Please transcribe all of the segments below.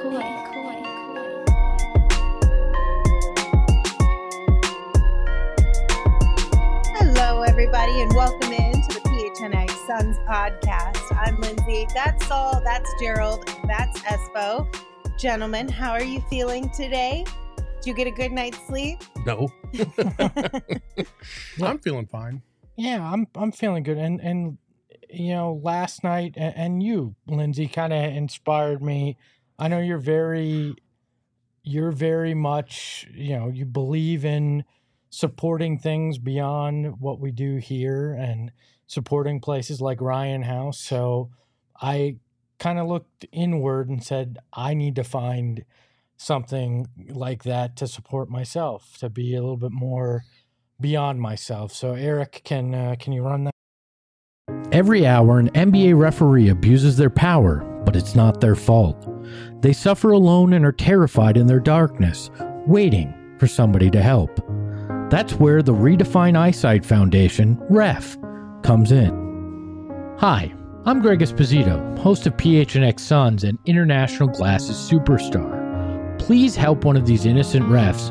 Hello, everybody, and welcome into the PHNX Sons podcast. I'm Lindsay. That's Saul. That's Gerald. That's Espo. Gentlemen, how are you feeling today? Did you get a good night's sleep? No. I'm feeling fine. Yeah, I'm feeling good. And you know, last night and you, Lindsay, kind of inspired me. I know you're very much, you know, you believe in supporting things beyond what we do here and supporting places like Ryan House. So I kind of looked inward and said, I need to find something like that to support myself, to be a little bit more beyond myself. So Eric, can you run that? Every hour, an NBA referee abuses their power, but it's not their fault. They suffer alone and are terrified in their darkness, waiting for somebody to help. That's where the Redefine Eyesight Foundation, REF, comes in. Hi, I'm Greg Esposito, host of PHNX Sons and International Glasses Superstar. Please help one of these innocent refs.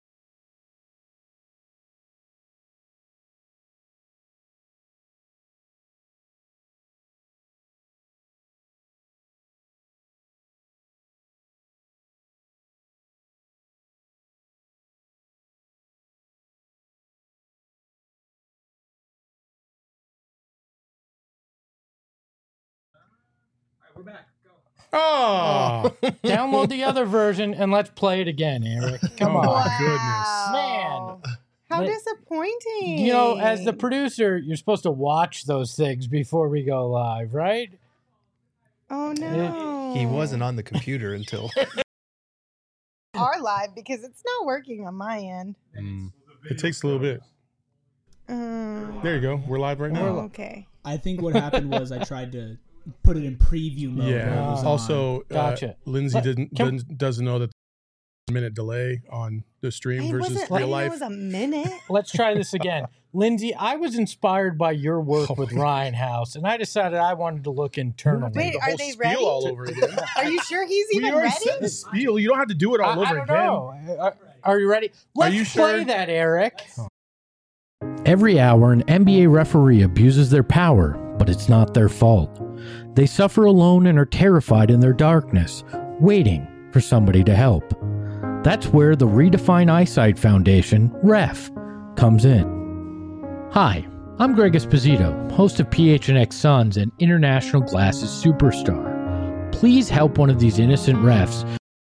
We're back. Go. Oh, Download the other version and let's play it again, Eric. Come on. Wow. Man. How But- disappointing. You know, as the producer, you're supposed to watch those things before we go live, right? Oh, no. He wasn't on the computer until. Are live because it's not working on my end. it takes a little bit. There you go. We're live right now. Oh, okay. I think what happened was I tried to put it in preview mode. when it Yeah. was on. Also, Gotcha. Lindsay But doesn't know that minute delay on the stream It versus wasn't, real I life. It was a minute. Let's try this again. Lindsay, I was inspired by your work with Ryan House, and I decided I wanted to look internally. Wait, the are whole they spiel ready? all over again. Are you sure he's We even already ready? said the spiel. You don't have to do it all over I don't again. know. Are you ready? Let's you play sure? that, Eric. Every hour, an NBA referee abuses their power, but it's not their fault. They suffer alone and are terrified in their darkness, waiting for somebody to help. That's where the Redefine Eyesight Foundation, REF, comes in. Hi, I'm Greg Esposito, host of PHNX Sons and International Glasses Superstar. Please help one of these innocent refs.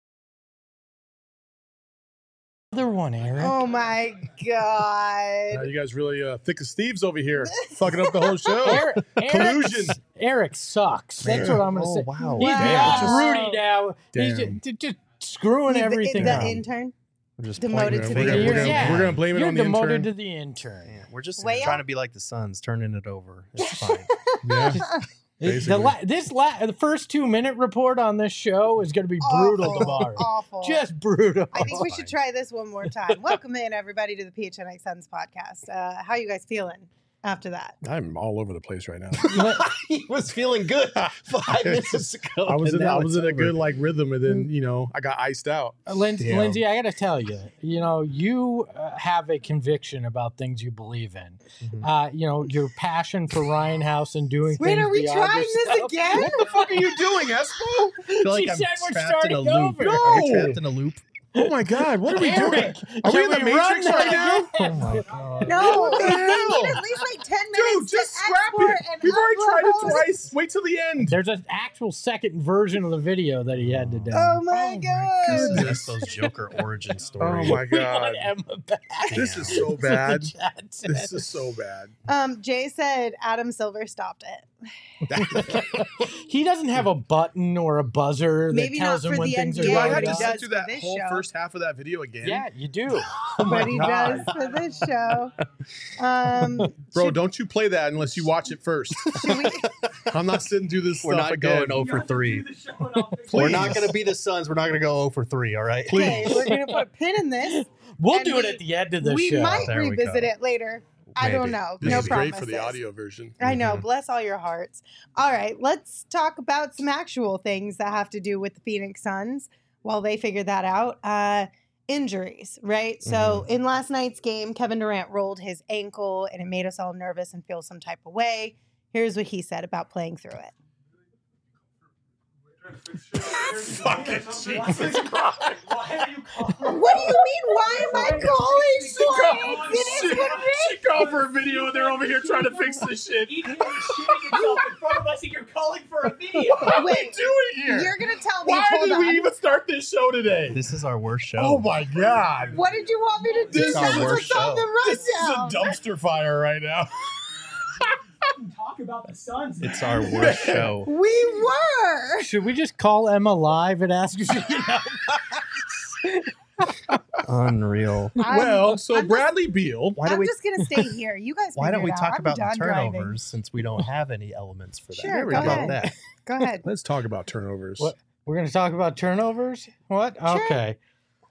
Other one, Eric. Oh, my God. You guys really thick as thieves over here, fucking up the whole show. Collusion. Eric sucks. That's what I'm going to say. Wow. He's Wow. beyond Rudy now. He's Damn. just screwing everything the up. intern? We're just Demoted pointing to our the fingers. intern. We're gonna blame it You're on the demoted intern. to the intern. Yeah, we're just Well- trying to be like the Suns, turning it over. It's fine. Yeah. Basically. The first 2-minute report on this show is going to be brutal Awful. tomorrow. Awful. Just brutal. I think we should try this one more time. Welcome in, everybody, to the PHNX Sons podcast. How you guys feeling after that? I'm all over the place right now. He was feeling good 5 minutes ago. I was and in now a it's good over. like rhythm, and then I got iced out. Lindsay, Damn. I got to tell you, you have a conviction about things you believe in. Your passion for Ryan House and doing Wait, things are we beyond trying this yourself. again? What the fuck are you doing, Espo? I feel like She I'm said we're trapped in a starting loop. over. Are we No. trapped in a loop? Oh my God, what are we doing? Eric, Are we can in the we run Matrix right now? that Oh my god. No, What the we hell? need at least like 10 Dude, minutes just to scrap export it. and We've already tried it upload. twice. Wait till the end. There's an actual second version of the video that he had to do. Oh my God. That's those Joker origin story. Oh my God. Emma back. This is so That's what bad. the chat said. This is so bad. Jay said Adam Silver stopped it. He doesn't have a button or a buzzer that Maybe tells not him for when the things are NBA, Do I going have but to he on. sit does through for that this whole show. first half of that video again? Yeah, you do. But he God. does for this show. Bro, Should- don't you play that unless you watch it first. should we- I'm not sitting through this We're stuff not again. going 0 for 3. We're Please. not going to be the Suns. We're not going to go 0 for 3, all right? Okay, we're gonna put a pin in this. We'll And do it we- at the end of the We show. might There we revisit go. it later. I don't know. This No is great promises. for the audio version. I know. Bless all your hearts. All right, let's talk about some actual things that have to do with the Phoenix Suns while they figure that out. Injuries, right? So in last night's game, Kevin Durant rolled his ankle and it made us all nervous and feel some type of way. Here's what he said about playing through it. Fucking Jesus Christ. Why are you calling? What do you mean? Why am I calling slides? It is what it She called for a video and they're over here trying to fix this shit. Ethan is shitting himself in front of us and you're calling for a video. What are we Wait, doing here? You're going to tell me, Why hold did on. we even start this show today? This is our worst show. Oh my God. What did you want me to do? This is That our was worst on the This is a rundown. dumpster fire right now. Talk about the Suns. It's our worst show. We were. Should we just call Emma live and ask if she can help? Unreal. Well, so I'm just- Bradley Beal. Why do I'm we? just going to stay here. You guys Why don't figure we it talk out. about the I'm done turnovers driving. since we don't have any elements for that? Sure, we go go. How ahead. about that? Go ahead. Let's talk about turnovers. What? We're going to talk about turnovers? What? Sure. Okay.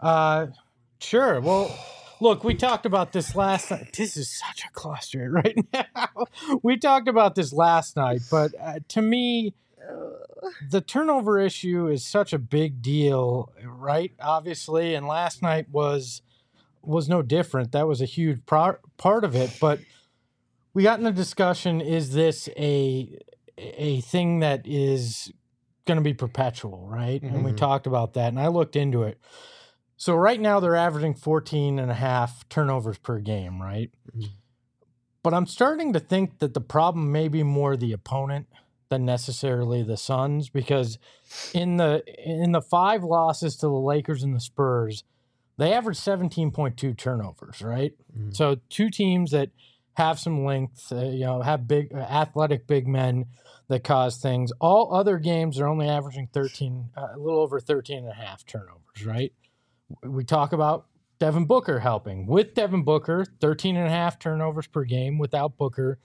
Sure. Well, look, we talked about this last night. This is such a cluster right now. We talked about this last night, but to me, the turnover issue is such a big deal, right? Obviously, and last night was no different. That was a huge part of it, but we got in a discussion, is this a thing that is going to be perpetual, right? And we talked about that, and I looked into it. So right now they're averaging 14 and a half turnovers per game, right? But I'm starting to think that the problem may be more the opponent than necessarily the Suns, because in the 5 losses to the Lakers and the Spurs, they averaged 17.2 turnovers, right? So 2 teams that have some length, have big athletic big men that cause things. All other games are only averaging a little over 13 and a half turnovers, right? We talk about Devin Booker helping. With Devin Booker, 13 and a half turnovers per game. Without Booker,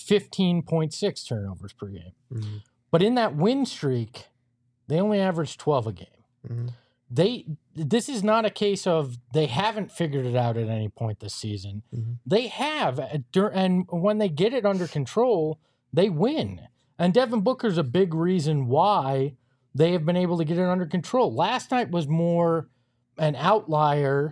15.6 turnovers per game. But in that win streak, they only averaged 12 a game. This is not a case of they haven't figured it out at any point this season. They have, and when they get it under control, they win. And Devin Booker's a big reason why they have been able to get it under control. Last night was more an outlier,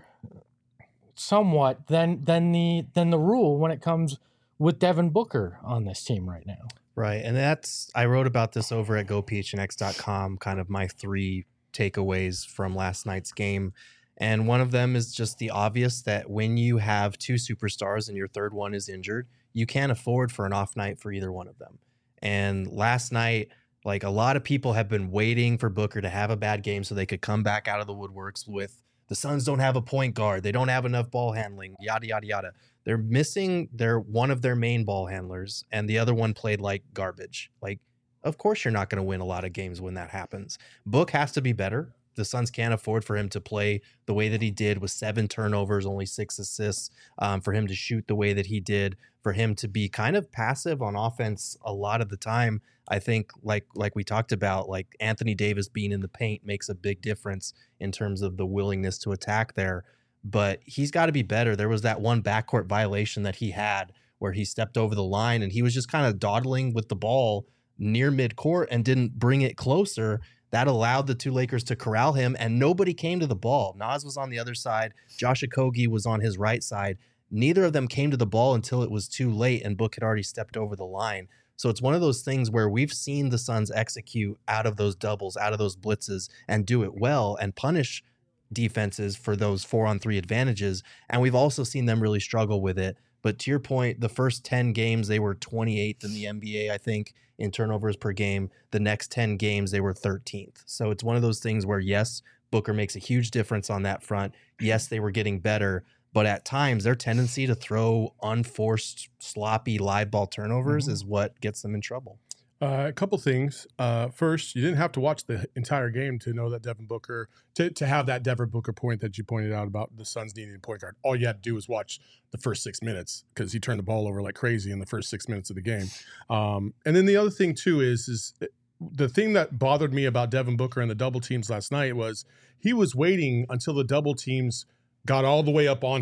somewhat, than the rule when it comes with Devin Booker on this team right now. Right. And I wrote about this over at gophnx.com, kind of my 3 takeaways from last night's game. And one of them is just the obvious that when you have 2 superstars and your third one is injured, you can't afford for an off night for either one of them. And last night, like, a lot of people have been waiting for Booker to have a bad game so they could come back out of the woodworks with the Suns don't have a point guard. They don't have enough ball handling, yada, yada, yada. They're missing one of their main ball handlers, and the other one played like garbage. Like, of course you're not going to win a lot of games when that happens. Book has to be better. The Suns can't afford for him to play the way that he did with 7 turnovers, only 6 assists, for him to shoot the way that he did, for him to be kind of passive on offense a lot of the time. I think like we talked about, like Anthony Davis being in the paint makes a big difference in terms of the willingness to attack there. But he's got to be better. There was that one backcourt violation that he had where he stepped over the line and he was just kind of dawdling with the ball near midcourt and didn't bring it closer. That allowed the 2 Lakers to corral him, and nobody came to the ball. Nas was on the other side. Josh Okogie was on his right side. Neither of them came to the ball until it was too late, and Book had already stepped over the line. So it's one of those things where we've seen the Suns execute out of those doubles, out of those blitzes, and do it well and punish defenses for those 4-on-3 advantages. And we've also seen them really struggle with it. But to your point, the first 10 games, they were 28th in the NBA, I think, in turnovers per game. The next 10 games, they were 13th. So it's one of those things where, yes, Booker makes a huge difference on that front. Yes, they were getting better. But at times, their tendency to throw unforced, sloppy live ball turnovers is what gets them in trouble. A couple things. First, you didn't have to watch the entire game to know that Devin Booker, to have that Devin Booker point that you pointed out about the Suns needing a point guard. All you had to do was watch the first 6 minutes because he turned the ball over like crazy in the first 6 minutes of the game. And then the other thing too is the thing that bothered me about Devin Booker and the double teams last night was he was waiting until the double teams got all the way up on him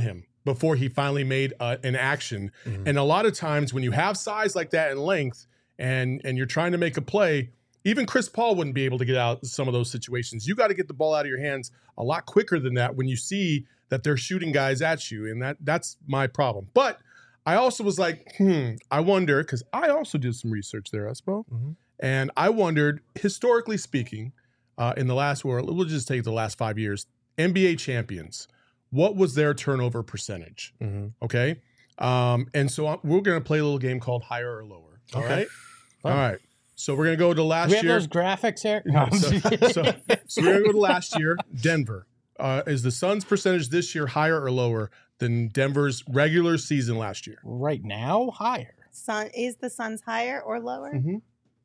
before he finally made an action. And a lot of times when you have size like that and length and you're trying to make a play, even Chris Paul wouldn't be able to get out of some of those situations. You got to get the ball out of your hands a lot quicker than that when you see that they're shooting guys at you. And that's my problem. But I also was like, I wonder, because I also did some research there, Espo. And I wondered, historically speaking, in the last war, we'll just take the last 5 years, NBA champions, what was their turnover percentage? Okay. And so we're going to play a little game called higher or lower. All right. All right. So we're going to go to last Do we have year. those graphics here? No, so we're going to go to last year. Denver. Is the Suns' percentage this year higher or lower than Denver's regular season last year? Right now, higher. Is the Suns higher or lower? I'm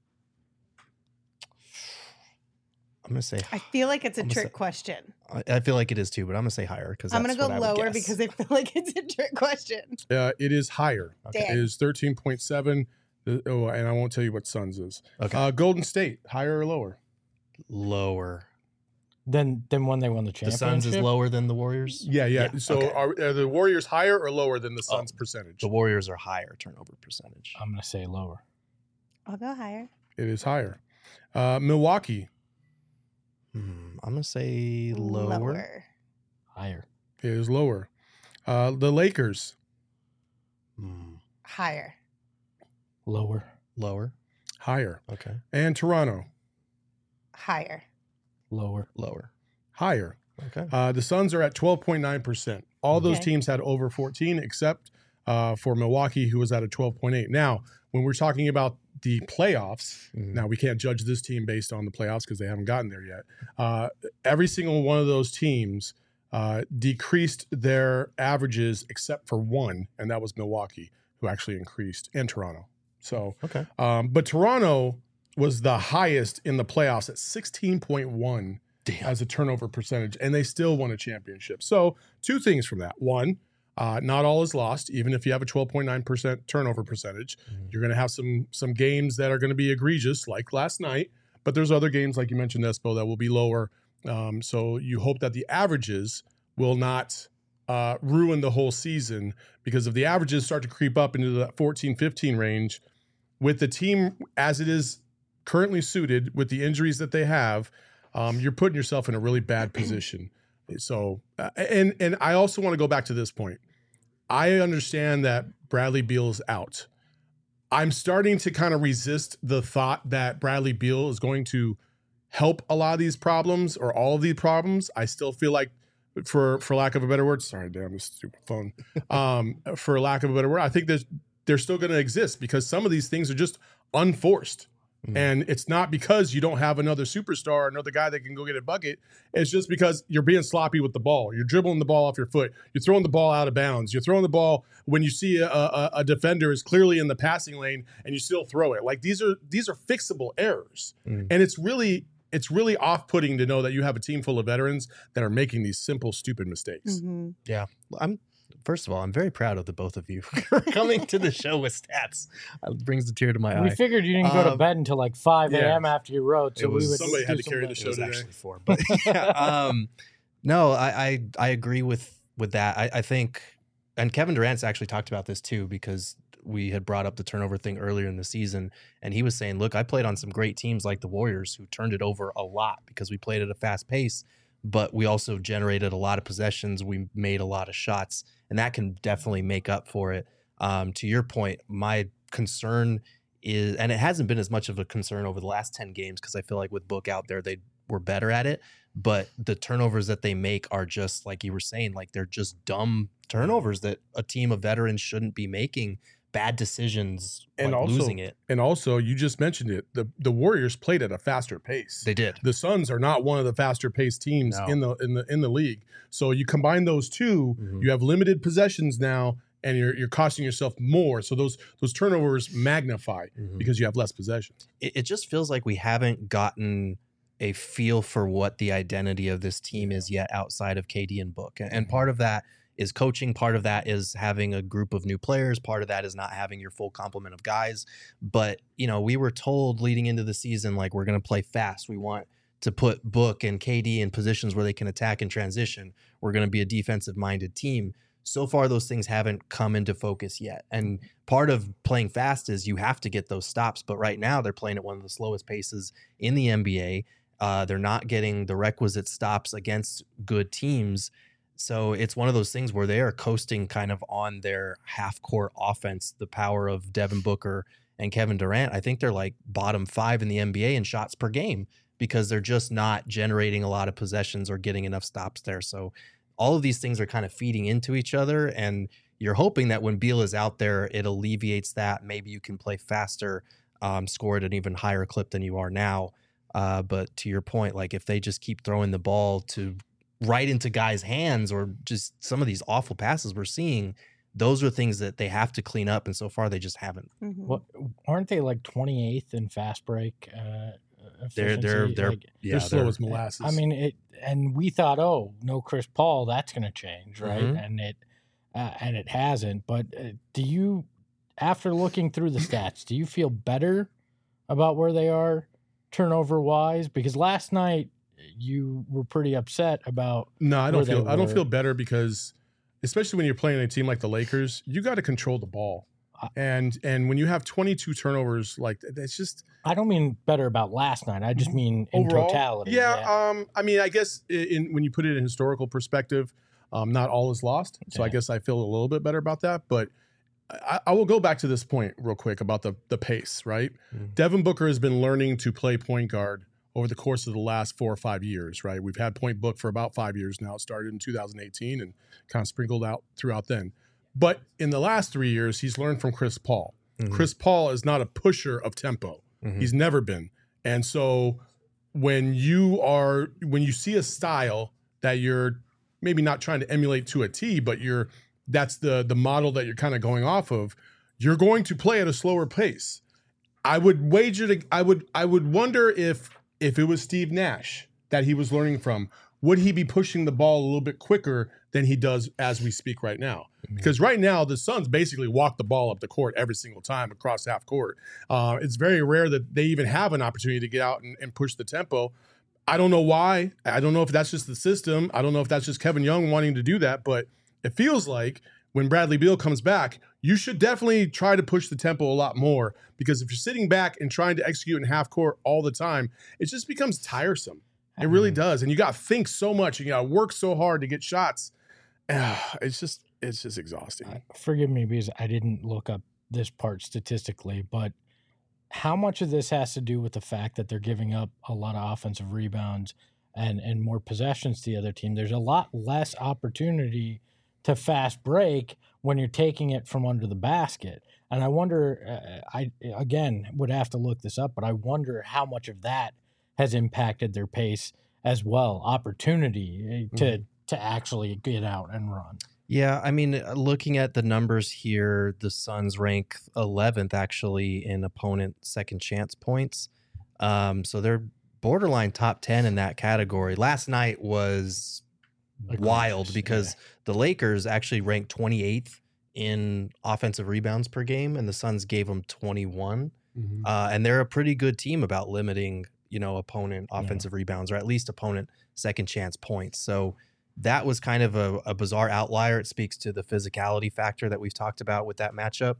gonna say. I feel like it's a trick question. I feel like it is too, but I'm gonna say higher because I'm gonna go lower because I feel like it's a trick question. It is higher. Okay. It is 13.7. Oh, and I won't tell you what Suns is. Okay. Golden State, higher or lower? Lower. Than when they won the The championship. Suns is lower than the Warriors. Yeah. Yeah, So okay. are the Warriors higher or lower than the Suns' percentage? The Warriors are higher turnover percentage. I'm gonna say lower. I'll go higher. It is higher. Milwaukee, I'm gonna say lower. Higher. it is lower. The Lakers, Higher. Lower. Lower. higher. Okay. And Toronto, Higher. Lower. Lower. higher. Okay. The Suns are at 12.9%. All those Okay. teams had over 14 except for Milwaukee, who was at a 12.8. Now, when we're talking about the playoffs, now we can't judge this team based on the playoffs because they haven't gotten there yet. Every single one of those teams decreased their averages except for one, and that was Milwaukee, who actually increased, and Toronto. So, Okay. but Toronto was the highest in the playoffs at 16.1 as a turnover percentage, and they still won a championship. So, two things from that. One, not all is lost. Even if you have a 12.9% turnover percentage, you're going to have some games that are going to be egregious, like last night. But there's other games, like you mentioned, Espo, that will be lower. So you hope that the averages will not ruin the whole season, because if the averages start to creep up into the 14, 15 range, with the team as it is currently suited, with the injuries that they have, you're putting yourself in a really bad position. So, and I also want to go back to this point. I understand that Bradley Beal's out. I'm starting to kind of resist the thought that Bradley Beal is going to help a lot of these problems or all of these problems. I still feel like, for lack of a better word, sorry, damn this stupid phone. For lack of a better word, I think they're still going to exist because some of these things are just unforced. And it's not because you don't have another superstar, another guy that can go get a bucket. It's just because you're being sloppy with the ball. You're dribbling the ball off your foot. You're throwing the ball out of bounds. You're throwing the ball when you see a defender is clearly in the passing lane and you still throw it. Like these are fixable errors. And it's really off-putting to know that you have a team full of veterans that are making these simple, stupid mistakes. Yeah. First of all, I'm very proud of the both of you for coming to the show with stats. It brings a tear to my eye. We figured you didn't go to bed until like 5 a.m. after you wrote, so we would somebody had do to carry the some- show It was today. actually 4, but yeah, no, I agree with that. I think, and Kevin Durant's actually talked about this too, because we had brought up the turnover thing earlier in the season, and he was saying, look, I played on some great teams like the Warriors who turned it over a lot because we played at a fast pace, but we also generated a lot of possessions. We made a lot of shots, and that can definitely make up for it. To your point, my concern is, and it hasn't been as much of a concern over the last 10 games because I feel like with Book out there, they were better at it, but the turnovers that they make are just, like you were saying, like they're just dumb turnovers that a team of veterans shouldn't be making. Bad decisions and also losing it. And also, you just mentioned it. The Warriors played at a faster pace. They did. The Suns are not one of the faster paced teams No. in the league. So you combine those two, you have limited possessions now, and you're costing yourself more. So those turnovers magnify because you have less possessions. It just feels like we haven't gotten a feel for what the identity of this team is yet outside of KD and Book. And part of that is coaching. Part of that is having a group of new players. Part of that is not having your full complement of guys. But, we were told leading into the season, like, we're going to play fast. We want to put Book and KD in positions where they can attack and transition. We're going to be a defensive-minded team. so far those things haven't come into focus yet. And part of playing fast is you have to get those stops. But right now they're playing at one of the slowest paces in the NBA. They're not getting the requisite stops against good teams. So it's one of those things where they are coasting kind of on their half-court offense, the power of Devin Booker and Kevin Durant. I think they're like bottom 5 in the NBA in shots per game because they're just not generating a lot of possessions or getting enough stops there. So all of these things are kind of feeding into each other, and you're hoping that when Beal is out there, it alleviates that. Maybe you can play faster, score at an even higher clip than you are now. But to your point, like if they just keep throwing the ball to right into guys' hands or just some of these awful passes we're seeing, those are things that they have to clean up. And so far they just haven't. Mm-hmm. What aren't they like 28th in fast break? They're They're slow as molasses. I mean, and we thought, oh, no Chris Paul, that's going to change, right? Mhm. And it hasn't. But do you, after looking through the stats, do you feel better about where they are turnover wise? Because last night you were pretty upset about. No, I where don't they were. feel better because, especially when you're playing a team like the Lakers, you got to control the ball. And when you have 22 turnovers, like that's just. I don't mean better about last night. I just mean in overall, totality. Yeah. I mean, I guess when you put it in historical perspective, not all is lost. So I Yeah. guess I feel a little bit better about that. But I will go back to this point real quick about the pace, right? Mhm. Devin Booker has been learning to play point guard over the course of the last 4 or 5 years, right? We've had Point Book for about 5 years now. It started in 2018 and kind of sprinkled out throughout then. But in the last 3 years, he's learned from Chris Paul. Mhm. Chris Paul is not a pusher of tempo. Mhm. He's never been. And so when you see a style that you're maybe not trying to emulate to a T, but that's the model that you're kind of going off of, you're going to play at a slower pace. I would wager I would wonder if it was Steve Nash that he was learning from, would he be pushing the ball a little bit quicker than he does as we speak right now? Because right now the Suns basically walk the ball up the court every single time across half court. It's very rare that they even have an opportunity to get out and push the tempo. I don't know why. I don't know if that's just the system. I don't know if that's just Kevin Young wanting to do that, but it feels like when Bradley Beal comes back, you should definitely try to push the tempo a lot more, because if you're sitting back and trying to execute in half court all the time, it just becomes tiresome. It really does. And you got to think so much. You got to work so hard to get shots. It's just exhausting. Forgive me because I didn't look up this part statistically, but how much of this has to do with the fact that they're giving up a lot of offensive rebounds and more possessions to the other team? There's a lot less opportunity to fast break when you're taking it from under the basket. And I wonder, I again would have to look this up, but I wonder how much of that has impacted their pace as well. Opportunity to actually get out and run. Yeah, I mean, looking at the numbers here, the Suns rank 11th actually in opponent second chance points. So they're borderline top 10 in that category. Last night was wild because the Lakers actually ranked 28th in offensive rebounds per game, and the Suns gave them 21. And they're a pretty good team about limiting, opponent offensive rebounds, or at least opponent second chance points. So that was kind of a bizarre outlier. It speaks to the physicality factor that we've talked about with that matchup.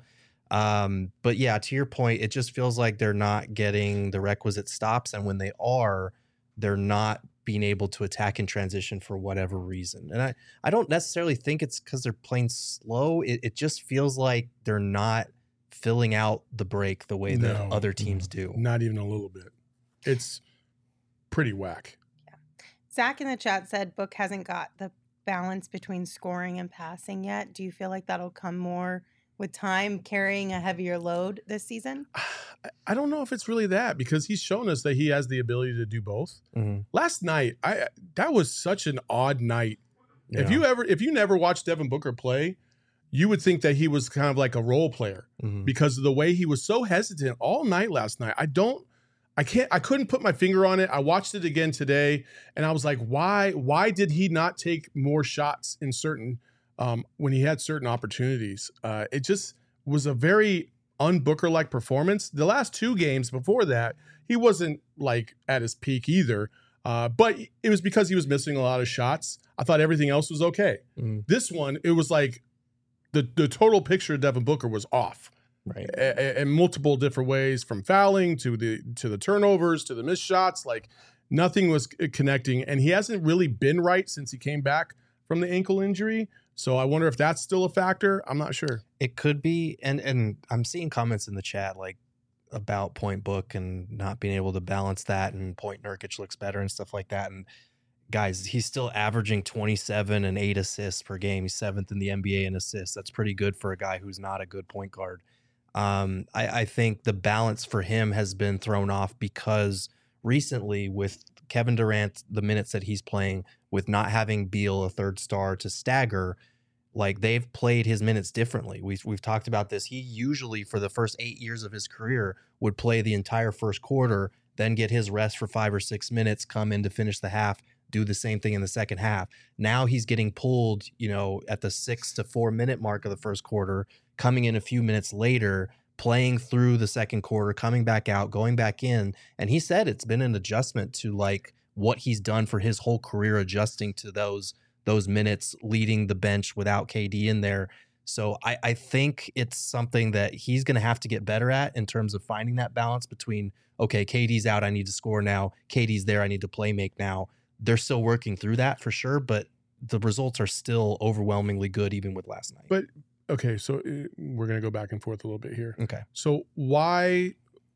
But yeah, to your point, it just feels like they're not getting the requisite stops. And when they are, they're not being able to attack in transition for whatever reason. And I don't necessarily think it's because they're playing slow. It just feels like they're not filling out the break the way that other teams do. Not even a little bit. It's pretty whack. Zach in the chat said Book hasn't got the balance between scoring and passing yet. Do you feel like that'll come more with time, carrying a heavier load this season? I don't know if it's really that, because he's shown us that he has the ability to do both. Last night, that was such an odd night. Yeah. If you never watched Devin Booker play, you would think that he was kind of like a role player because of the way he was so hesitant all night last night. I couldn't put my finger on it. I watched it again today and I was like, why did he not take more shots in certain, when he had certain opportunities? It just was a very un-Booker-like performance. The last 2 games before that, he wasn't like at his peak either. But it was because he was missing a lot of shots. I thought everything else was okay. This one, it was like the total picture of Devin Booker was off. Right. In multiple different ways, from fouling to the turnovers to the missed shots. Like nothing was connecting, and he hasn't really been right since he came back from the ankle injury. So I wonder if that's still a factor. I'm not sure. It could be, and I'm seeing comments in the chat like about Point Book and not being able to balance that, and Point Nurkic looks better and stuff like that. And guys, he's still averaging 27 and 8 assists per game. He's 7th in the NBA in assists. That's pretty good for a guy who's not a good point guard. I think the balance for him has been thrown off because recently with Kevin Durant, the minutes that he's playing, with not having Beal, a third star, to stagger, like they've played his minutes differently. We've talked about this. He usually, for the first 8 years of his career, would play the entire first quarter, then get his rest for 5 or 6 minutes, come in to finish the half, do the same thing in the second half. Now he's getting pulled, at the 6 to 4 minute mark of the first quarter, coming in a few minutes later, playing through the second quarter, coming back out, going back in. And he said it's been an adjustment to like what he's done for his whole career, adjusting to those minutes, leading the bench without KD in there. So I think it's something that he's going to have to get better at in terms of finding that balance between, okay, KD's out, I need to score now. KD's there, I need to play make now. They're still working through that for sure, but the results are still overwhelmingly good even with last night. But okay, so we're going to go back and forth a little bit here. Okay. So why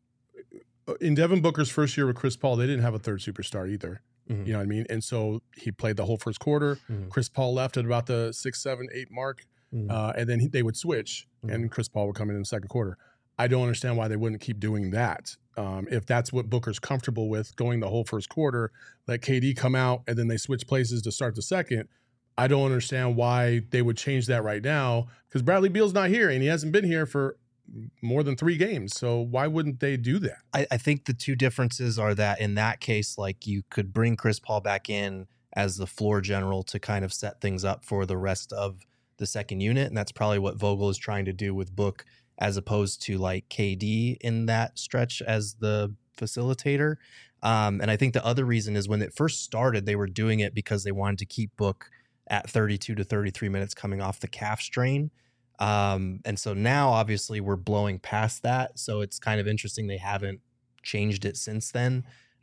in Devin Booker's first year with Chris Paul, they didn't have a third superstar either. Mm-hmm. You know what I mean? And so he played the whole first quarter. Mm-hmm. Chris Paul left at about the 6, 7, 8 mark. Mm-hmm. And then they would switch and Chris Paul would come in the second quarter. I don't understand why they wouldn't keep doing that. If that's what Booker's comfortable with, going the whole first quarter, let KD come out and then they switch places to start the second. I don't understand why they would change that right now, because Bradley Beal's not here and he hasn't been here for more than 3 games. So why wouldn't they do that? I think the two differences are that in that case, like you could bring Chris Paul back in as the floor general to kind of set things up for the rest of the second unit. And that's probably what Vogel is trying to do with Book, as opposed to like KD in that stretch as the facilitator. And I think the other reason is when it first started, they were doing it because they wanted to keep Book at 32 to 33 minutes coming off the calf strain. And so now obviously we're blowing past that. So it's kind of interesting they haven't changed it since then.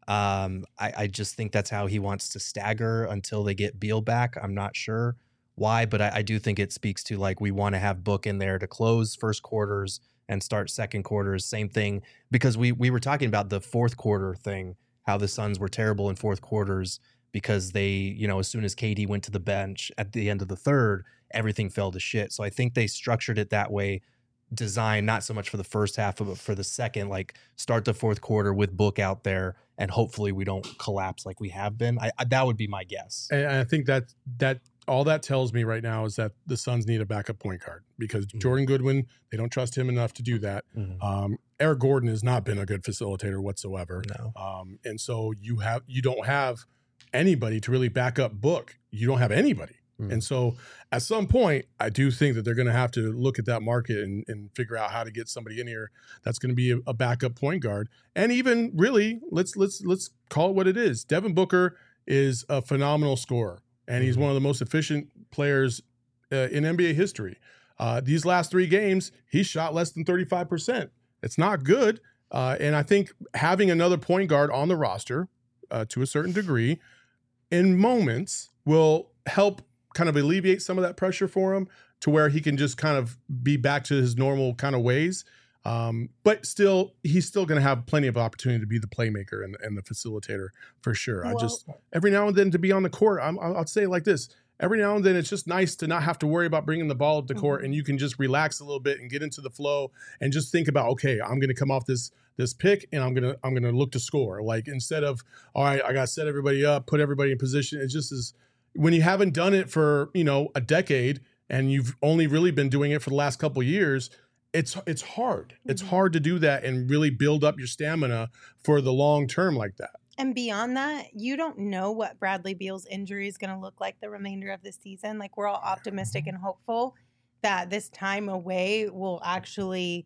I just think that's how he wants to stagger until they get Beal back. I'm not sure why, but I do think it speaks to like we want to have Book in there to close first quarters and start second quarters. Same thing, because we were talking about the fourth quarter thing, how the Suns were terrible in fourth quarters because they, as soon as KD went to the bench at the end of the third, everything fell to shit. So I think they structured it that way, designed not so much for the first half, but for the second, like start the fourth quarter with Book out there, and hopefully we don't collapse like we have been. That would be my guess. And I think that all that tells me right now is that the Suns need a backup point guard, because Jordan Goodwin, they don't trust him enough to do that. Eric Gordon has not been a good facilitator whatsoever. No. And so you don't have anybody to really back up Book. You don't have anybody. And so at some point, I do think that they're going to have to look at that market and figure out how to get somebody in here that's going to be a backup point guard. And even really, let's call it what it is. Devin Booker is a phenomenal scorer, and he's one of the most efficient players in NBA history. These last 3 games, he shot less than 35%. It's not good. And I think having another point guard on the roster to a certain degree in moments will help kind of alleviate some of that pressure for him, to where he can just kind of be back to his normal kind of ways. But still, he's still going to have plenty of opportunity to be the playmaker and the facilitator for sure. Well, I just, every now and then to be on the court, I'll say it like this. Every now and then, it's just nice to not have to worry about bringing the ball up the court, and you can just relax a little bit and get into the flow and just think about, okay, I'm going to come off this pick and I'm going to look to score. Like, instead of, all right, I got to set everybody up, put everybody in position. It just is, when you haven't done it for, a decade and you've only really been doing it for the last couple of years, it's hard. It's hard to do that and really build up your stamina for the long term like that. And beyond that, you don't know what Bradley Beal's injury is going to look like the remainder of the season. Like, we're all optimistic and hopeful that this time away will actually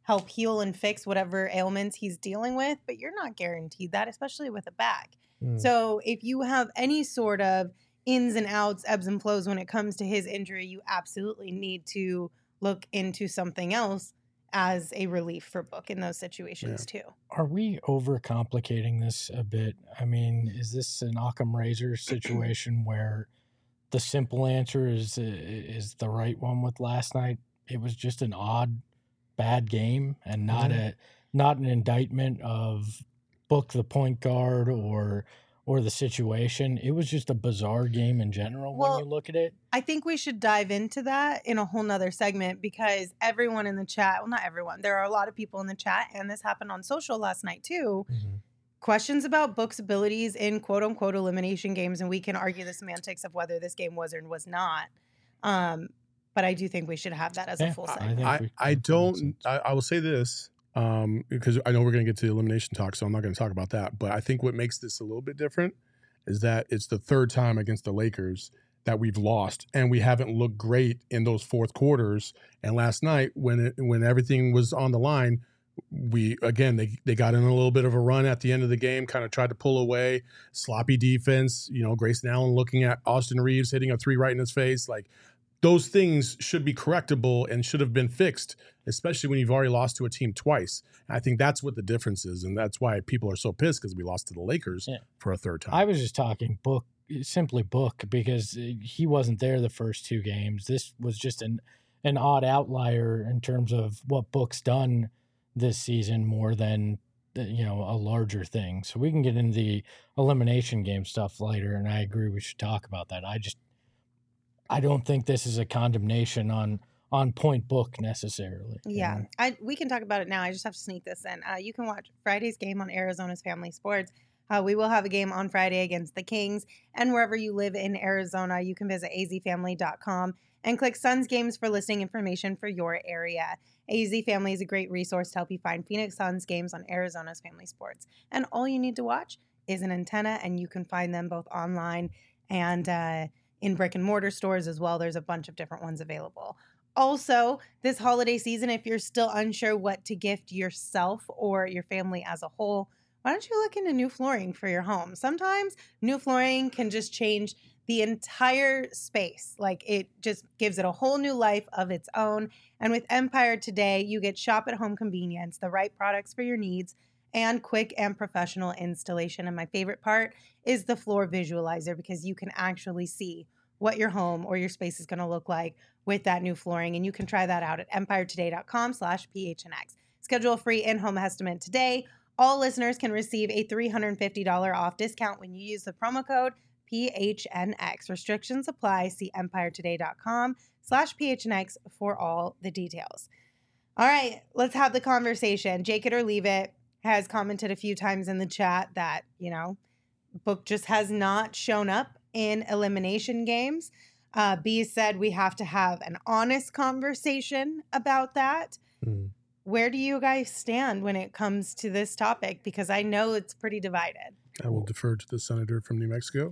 help heal and fix whatever ailments he's dealing with, but you're not guaranteed that, especially with a back. So if you have any sort of ins and outs, ebbs and flows when it comes to his injury, you absolutely need to look into something else as a relief for Book in those situations too. Are we overcomplicating this a bit? I mean, is this an Occam razor situation where the simple answer is the right one with last night? It was just an odd, bad game, and not an indictment of Book, the point guard, or the situation. It was just a bizarre game in general when you look at it. I think we should dive into that in a whole nother segment, because everyone in the chat, well, not everyone, there are a lot of people in the chat, and this happened on social last night too. Questions about Book's abilities in quote unquote elimination games, and we can argue the semantics of whether this game was or was not. But I do think we should have that as a full segment. I will say this, because I know we're going to get to the elimination talk, so I'm not going to talk about that. But I think what makes this a little bit different is that it's the third time against the Lakers that we've lost, and we haven't looked great in those fourth quarters. And last night, when everything was on the line, they got in a little bit of a run at the end of the game, kind of tried to pull away, sloppy defense. Grayson Allen looking at Austin Reeves hitting a three right in his face, like. Those things should be correctable and should have been fixed, especially when you've already lost to a team twice. And I think that's what the difference is, and that's why people are so pissed, because we lost to the Lakers for a third time. I was just talking simply Book, because he wasn't there the first two games. This was just an odd outlier in terms of what Book's done this season more than a larger thing. So we can get into the elimination game stuff later, and I agree we should talk about that. I don't think this is a condemnation on point Book necessarily. Yeah, we can talk about it now. I just have to sneak this in. You can watch Friday's game on Arizona's Family Sports. We will have a game on Friday against the Kings. And wherever you live in Arizona, you can visit azfamily.com and click Suns Games for listing information for your area. AZ Family is a great resource to help you find Phoenix Suns games on Arizona's Family Sports. And all you need to watch is an antenna, and you can find them both online and in brick and mortar stores as well. There's a bunch of different ones available. Also, this holiday season, if you're still unsure what to gift yourself or your family as a whole, why don't you look into new flooring for your home? Sometimes new flooring can just change the entire space. Like, it just gives it a whole new life of its own. And with Empire Today, you get shop at home convenience, the right products for your needs, and quick and professional installation. And my favorite part is the floor visualizer, because you can actually see what your home or your space is going to look like with that new flooring. And you can try that out at empiretoday.com/PHNX. Schedule a free in-home estimate today. All listeners can receive a $350 off discount when you use the promo code PHNX. Restrictions apply. See empiretoday.com/PHNX for all the details. All right, let's have the conversation. Jake It or Leave It has commented a few times in the chat that, Book just has not shown up in elimination games. B said we have to have an honest conversation about that. Where do you guys stand when it comes to this topic? Because I know it's pretty divided. I will defer to the senator from New Mexico.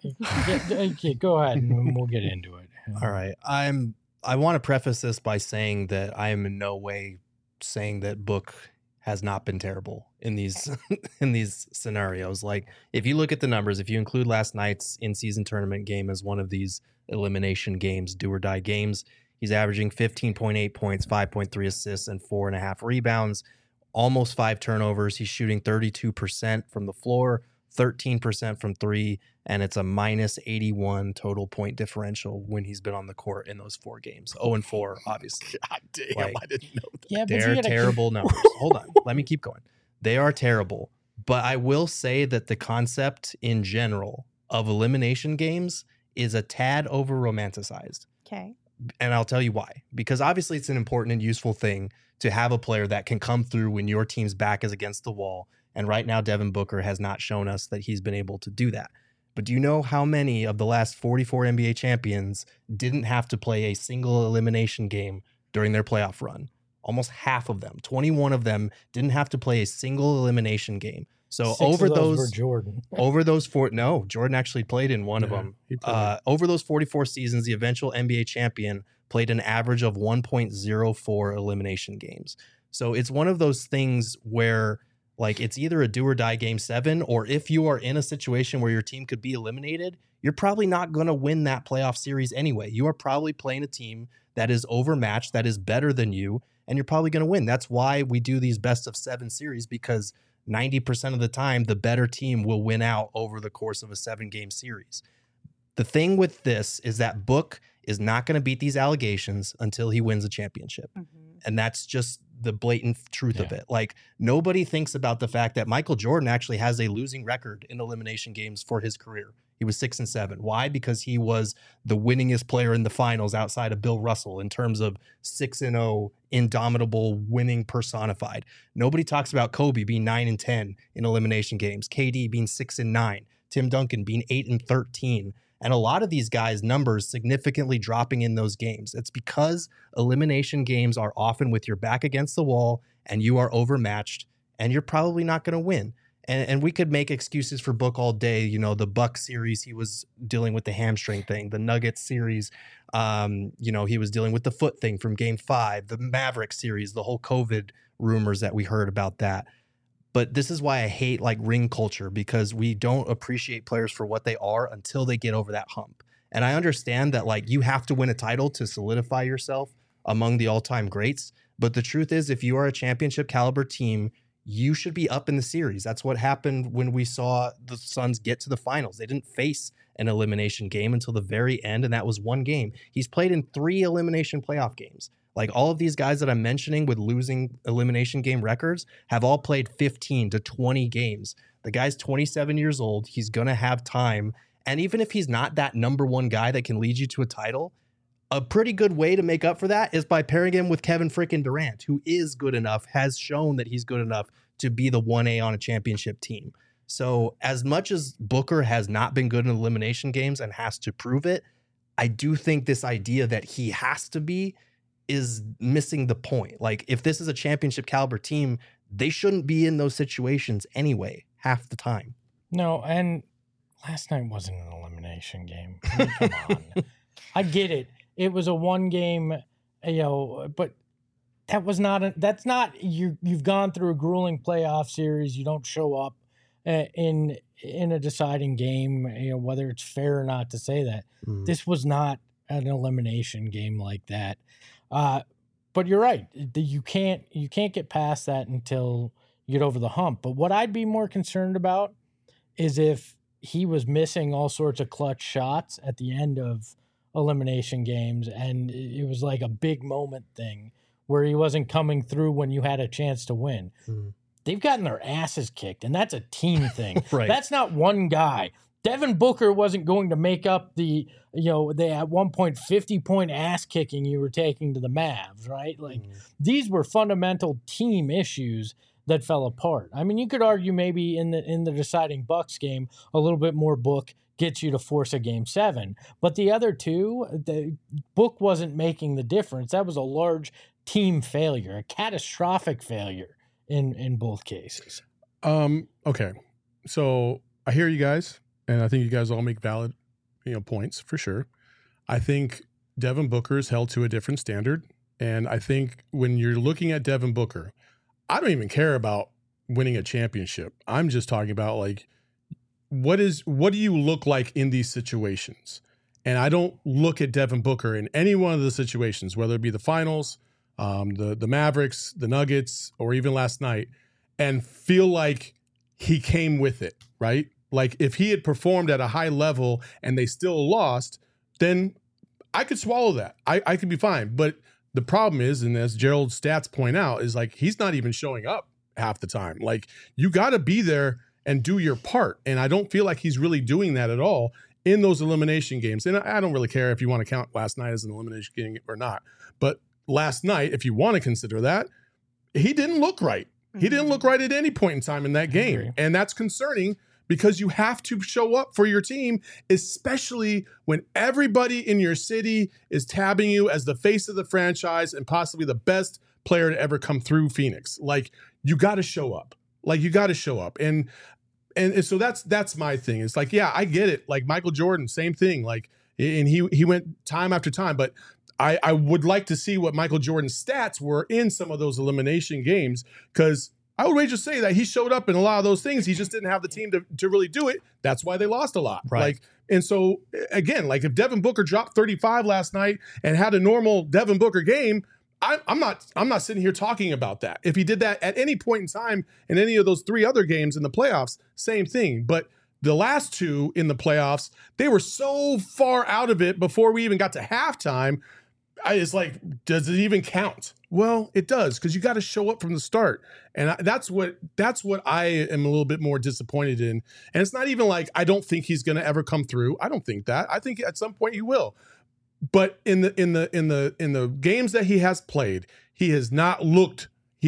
Go ahead, and we'll get into it. All right. I want to preface this by saying that I am in no way saying that Book has not been terrible in these in these scenarios. Like, if you look at the numbers, if you include last night's in-season tournament game as one of these elimination games, do or die games, he's averaging 15.8 points, 5.3 assists, and 4.5 rebounds, almost 5 turnovers. He's shooting 32% from the floor, 13% from three, and it's a minus 81 total point differential when he's been on the court in those 4 games. 0-4, obviously. God damn, I didn't know that. Yeah, They're terrible numbers. Hold on. Let me keep going. They are terrible. But I will say that the concept in general of elimination games is a tad over-romanticized. Okay. And I'll tell you why. Because obviously it's an important and useful thing to have a player that can come through when your team's back is against the wall. And right now, Devin Booker has not shown us that he's been able to do that. But do you know how many of the last 44 NBA champions didn't have to play a single elimination game during their playoff run? Almost half of them, 21 of them, didn't have to play a single elimination game. So 6 over of those those were Jordan. over those 4, no, Jordan actually played in one of them. Over those 44 seasons, the eventual NBA champion played an average of 1.04 elimination games. So it's one of those things where like it's either a do or die game 7, or if you are in a situation where your team could be eliminated, you're probably not going to win that playoff series anyway. You are probably playing a team that is overmatched, that is better than you, and you're probably going to win. That's why we do these best of 7 series, because 90% of the time, the better team will win out over the course of a 7-game series. The thing with this is that Book is not going to beat these allegations until he wins a championship. And that's just the blatant truth of it. Like, nobody thinks about the fact that Michael Jordan actually has a losing record in elimination games for his career. He was 6-7. Why? Because he was the winningest player in the finals outside of Bill Russell in terms of 6-0, indomitable, winning personified. Nobody talks about Kobe being 9-10 in elimination games, KD being 6-9, Tim Duncan being 8-13. And a lot of these guys' numbers significantly dropping in those games. It's because elimination games are often with your back against the wall and you are overmatched and you're probably not going to win. And we could make excuses for Book all day. You know, the Bucks series, he was dealing with the hamstring thing. The Nuggets series, he was dealing with the foot thing from game 5. The Mavericks series, the whole COVID rumors that we heard about that. But this is why I hate like ring culture, because we don't appreciate players for what they are until they get over that hump. And I understand that like you have to win a title to solidify yourself among the all-time greats. But the truth is, if you are a championship caliber team, you should be up in the series. That's what happened when we saw the Suns get to the finals. They didn't face an elimination game until the very end, and that was one game. He's played in 3 elimination playoff games. Like all of these guys that I'm mentioning with losing elimination game records have all played 15 to 20 games. The guy's 27 years old. He's going to have time. And even if he's not that number one guy that can lead you to a title, a pretty good way to make up for that is by pairing him with Kevin frickin' Durant, who is good enough, has shown that he's good enough to be the 1A on a championship team. So as much as Booker has not been good in elimination games and has to prove it, I do think this idea that he has to be is missing the point. Like, if this is a championship caliber team, they shouldn't be in those situations anyway, half the time. No, and last night wasn't an elimination game. I mean, come on. I get it. It was a 1-game, but that was not that's not you've gone through a grueling playoff series. You don't show up in a deciding game, whether it's fair or not to say that. This was not an elimination game like that. But you're right. You can't get past that until you get over the hump. But what I'd be more concerned about is if he was missing all sorts of clutch shots at the end of elimination games, and it was like a big moment thing where he wasn't coming through when you had a chance to win. They've gotten their asses kicked, and that's a team thing. Right. That's not one guy. Devin Booker wasn't going to make up they at one point 50-point ass kicking you were taking to the Mavs, right? Like these were fundamental team issues that fell apart. I mean, you could argue maybe in the deciding Bucks game, a little bit more Book gets you to force a game 7, but the other two, the Book wasn't making the difference. That was a large team failure, a catastrophic failure in both cases. Okay, so I hear you guys. And I think you guys all make valid, points for sure. I think Devin Booker is held to a different standard. And I think when you're looking at Devin Booker, I don't even care about winning a championship. I'm just talking about like, what do you look like in these situations? And I don't look at Devin Booker in any one of the situations, whether it be the finals, the Mavericks, the Nuggets, or even last night, and feel like he came with it, right? Like if he had performed at a high level and they still lost, then I could swallow that. I could be fine. But the problem is, and as Gerald's stats point out, is like he's not even showing up half the time. Like you got to be there and do your part. And I don't feel like he's really doing that at all in those elimination games. And I don't really care if you want to count last night as an elimination game or not. But last night, if you want to consider that, he didn't look right. He didn't look right at any point in time in that game. And that's concerning, because you have to show up for your team, especially when everybody in your city is tabbing you as the face of the franchise and possibly the best player to ever come through Phoenix. Like, you got to show up. And so that's my thing. It's like, yeah, I get it. Like Michael Jordan, same thing. Like, and he went time after time, but I would like to see what Michael Jordan's stats were in some of those elimination games, because I would just say that he showed up in a lot of those things. He just didn't have the team to really do it. That's why they lost a lot. Right. And so again, if Devin Booker dropped 35 last night and had a normal Devin Booker game, I'm not sitting here talking about that. If he did that at any point in time in any of those 3 other games in the playoffs, same thing. But the last 2 in the playoffs, they were so far out of it before we even got to halftime. It's like, does it even count? Well, it does, because you got to show up from the start, and that's what I am a little bit more disappointed in. And it's not even like I don't think he's going to ever come through. I don't think that. I think at some point he will. But in the games that he has played, he has not looked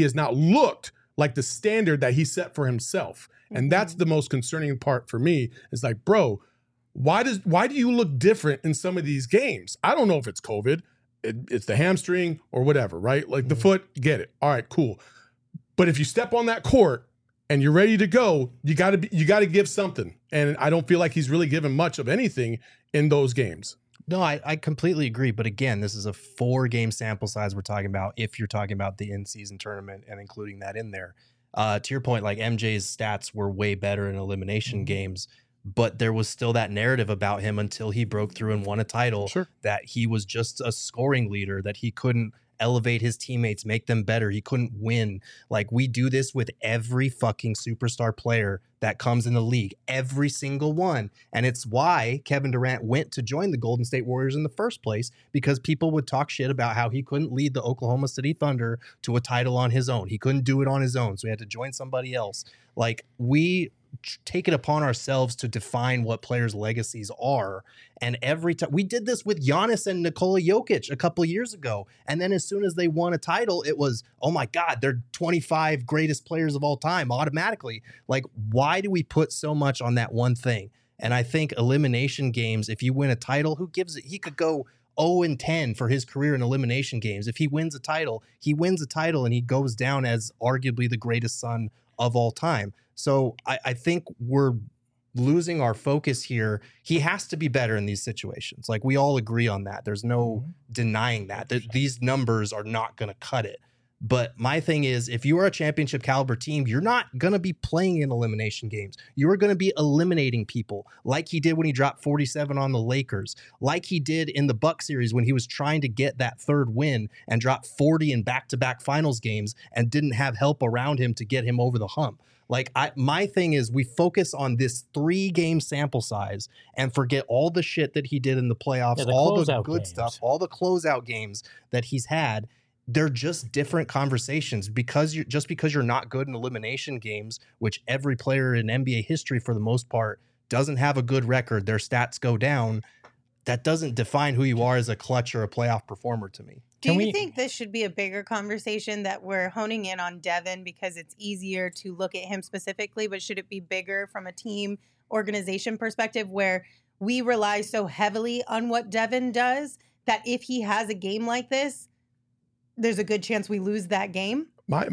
like the standard that he set for himself, and that's the most concerning part for me. Is like, bro, why do you look different in some of these games? I don't know if it's COVID. It's the hamstring or whatever, right? Like the foot, get it. All right, cool. But if you step on that court and you're ready to go, you got to give something. And I don't feel like he's really given much of anything in those games. No, I completely agree. But again, this is a 4-game sample size we're talking about, if you're talking about the in-season tournament and including that in there. To your point, like MJ's stats were way better in elimination games, but there was still that narrative about him until he broke through and won a title, that he was just a scoring leader, that he couldn't elevate his teammates, make them better. He couldn't win. Like, we do this with every fucking superstar player that comes in the league, every single one. And it's why Kevin Durant went to join the Golden State Warriors in the first place, because people would talk shit about how he couldn't lead the Oklahoma City Thunder to a title on his own. He couldn't do it on his own, so he had to join somebody else. Like, we take it upon ourselves to define what players' legacies are. And every time we did this with Giannis and Nikola Jokic a couple years ago. And then as soon as they won a title, it was, oh my God, they're 25 greatest players of all time automatically. Like, why do we put so much on that one thing? And I think elimination games, if you win a title, who gives it? He could go 0-10 for his career in elimination games. If he wins a title, he wins a title and he goes down as arguably the greatest Sun of all time. So I think we're losing our focus here. He has to be better in these situations. Like, we all agree on that. There's no denying that these numbers are not going to cut it. But my thing is, if you are a championship caliber team, you're not going to be playing in elimination games. You are going to be eliminating people, like he did when he dropped 47 on the Lakers, like he did in the Bucks series when he was trying to get that 3rd win and dropped 40 in back-to-back finals games and didn't have help around him to get him over the hump. Like, my thing is, we focus on this 3-game sample size and forget all the shit that he did in the playoffs, all the good stuff, all the closeout games that he's had. They're just different conversations, because you're not good in elimination games, which every player in NBA history for the most part doesn't have a good record. Their stats go down. That doesn't define who you are as a clutch or a playoff performer to me. Do you think this should be a bigger conversation, that we're honing in on Devin because it's easier to look at him specifically, but should it be bigger from a team organization perspective, where we rely so heavily on what Devin does that if he has a game like this, there's a good chance we lose that game?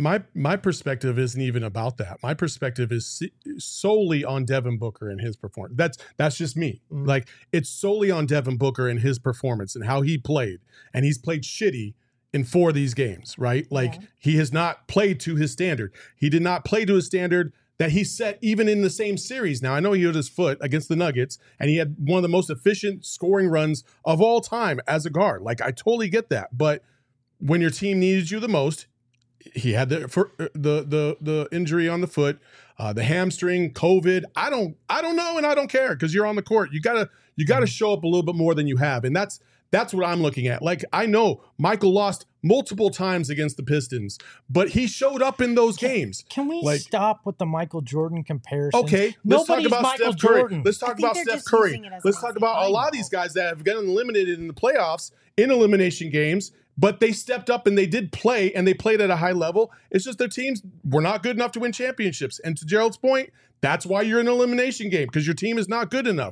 My perspective isn't even about that. My perspective is solely on Devin Booker and his performance. That's just me. Like, it's solely on Devin Booker and his performance and how he played. And he's played shitty in 4 of these games, right? Like, he has not played to his standard. He did not play to his standard that he set even in the same series. Now, I know he hurt his foot against the Nuggets, and he had one of the most efficient scoring runs of all time as a guard. Like, I totally get that. But when your team needed you the most, he had the injury on the foot, the hamstring, COVID. I don't know, and I don't care, because you're on the court. You gotta show up a little bit more than you have, and that's what I'm looking at. Like, I know Michael lost multiple times against the Pistons, but he showed up in those games. Can we stop with the Michael Jordan comparison? Okay, let's talk about Steph Curry. Let's talk about Steph Curry. Let's talk about a lot of these guys that have gotten eliminated in the playoffs in elimination games. But they stepped up and they did play, and they played at a high level. It's just their teams were not good enough to win championships. And to Gerald's point, that's why you're in an elimination game, because your team is not good enough.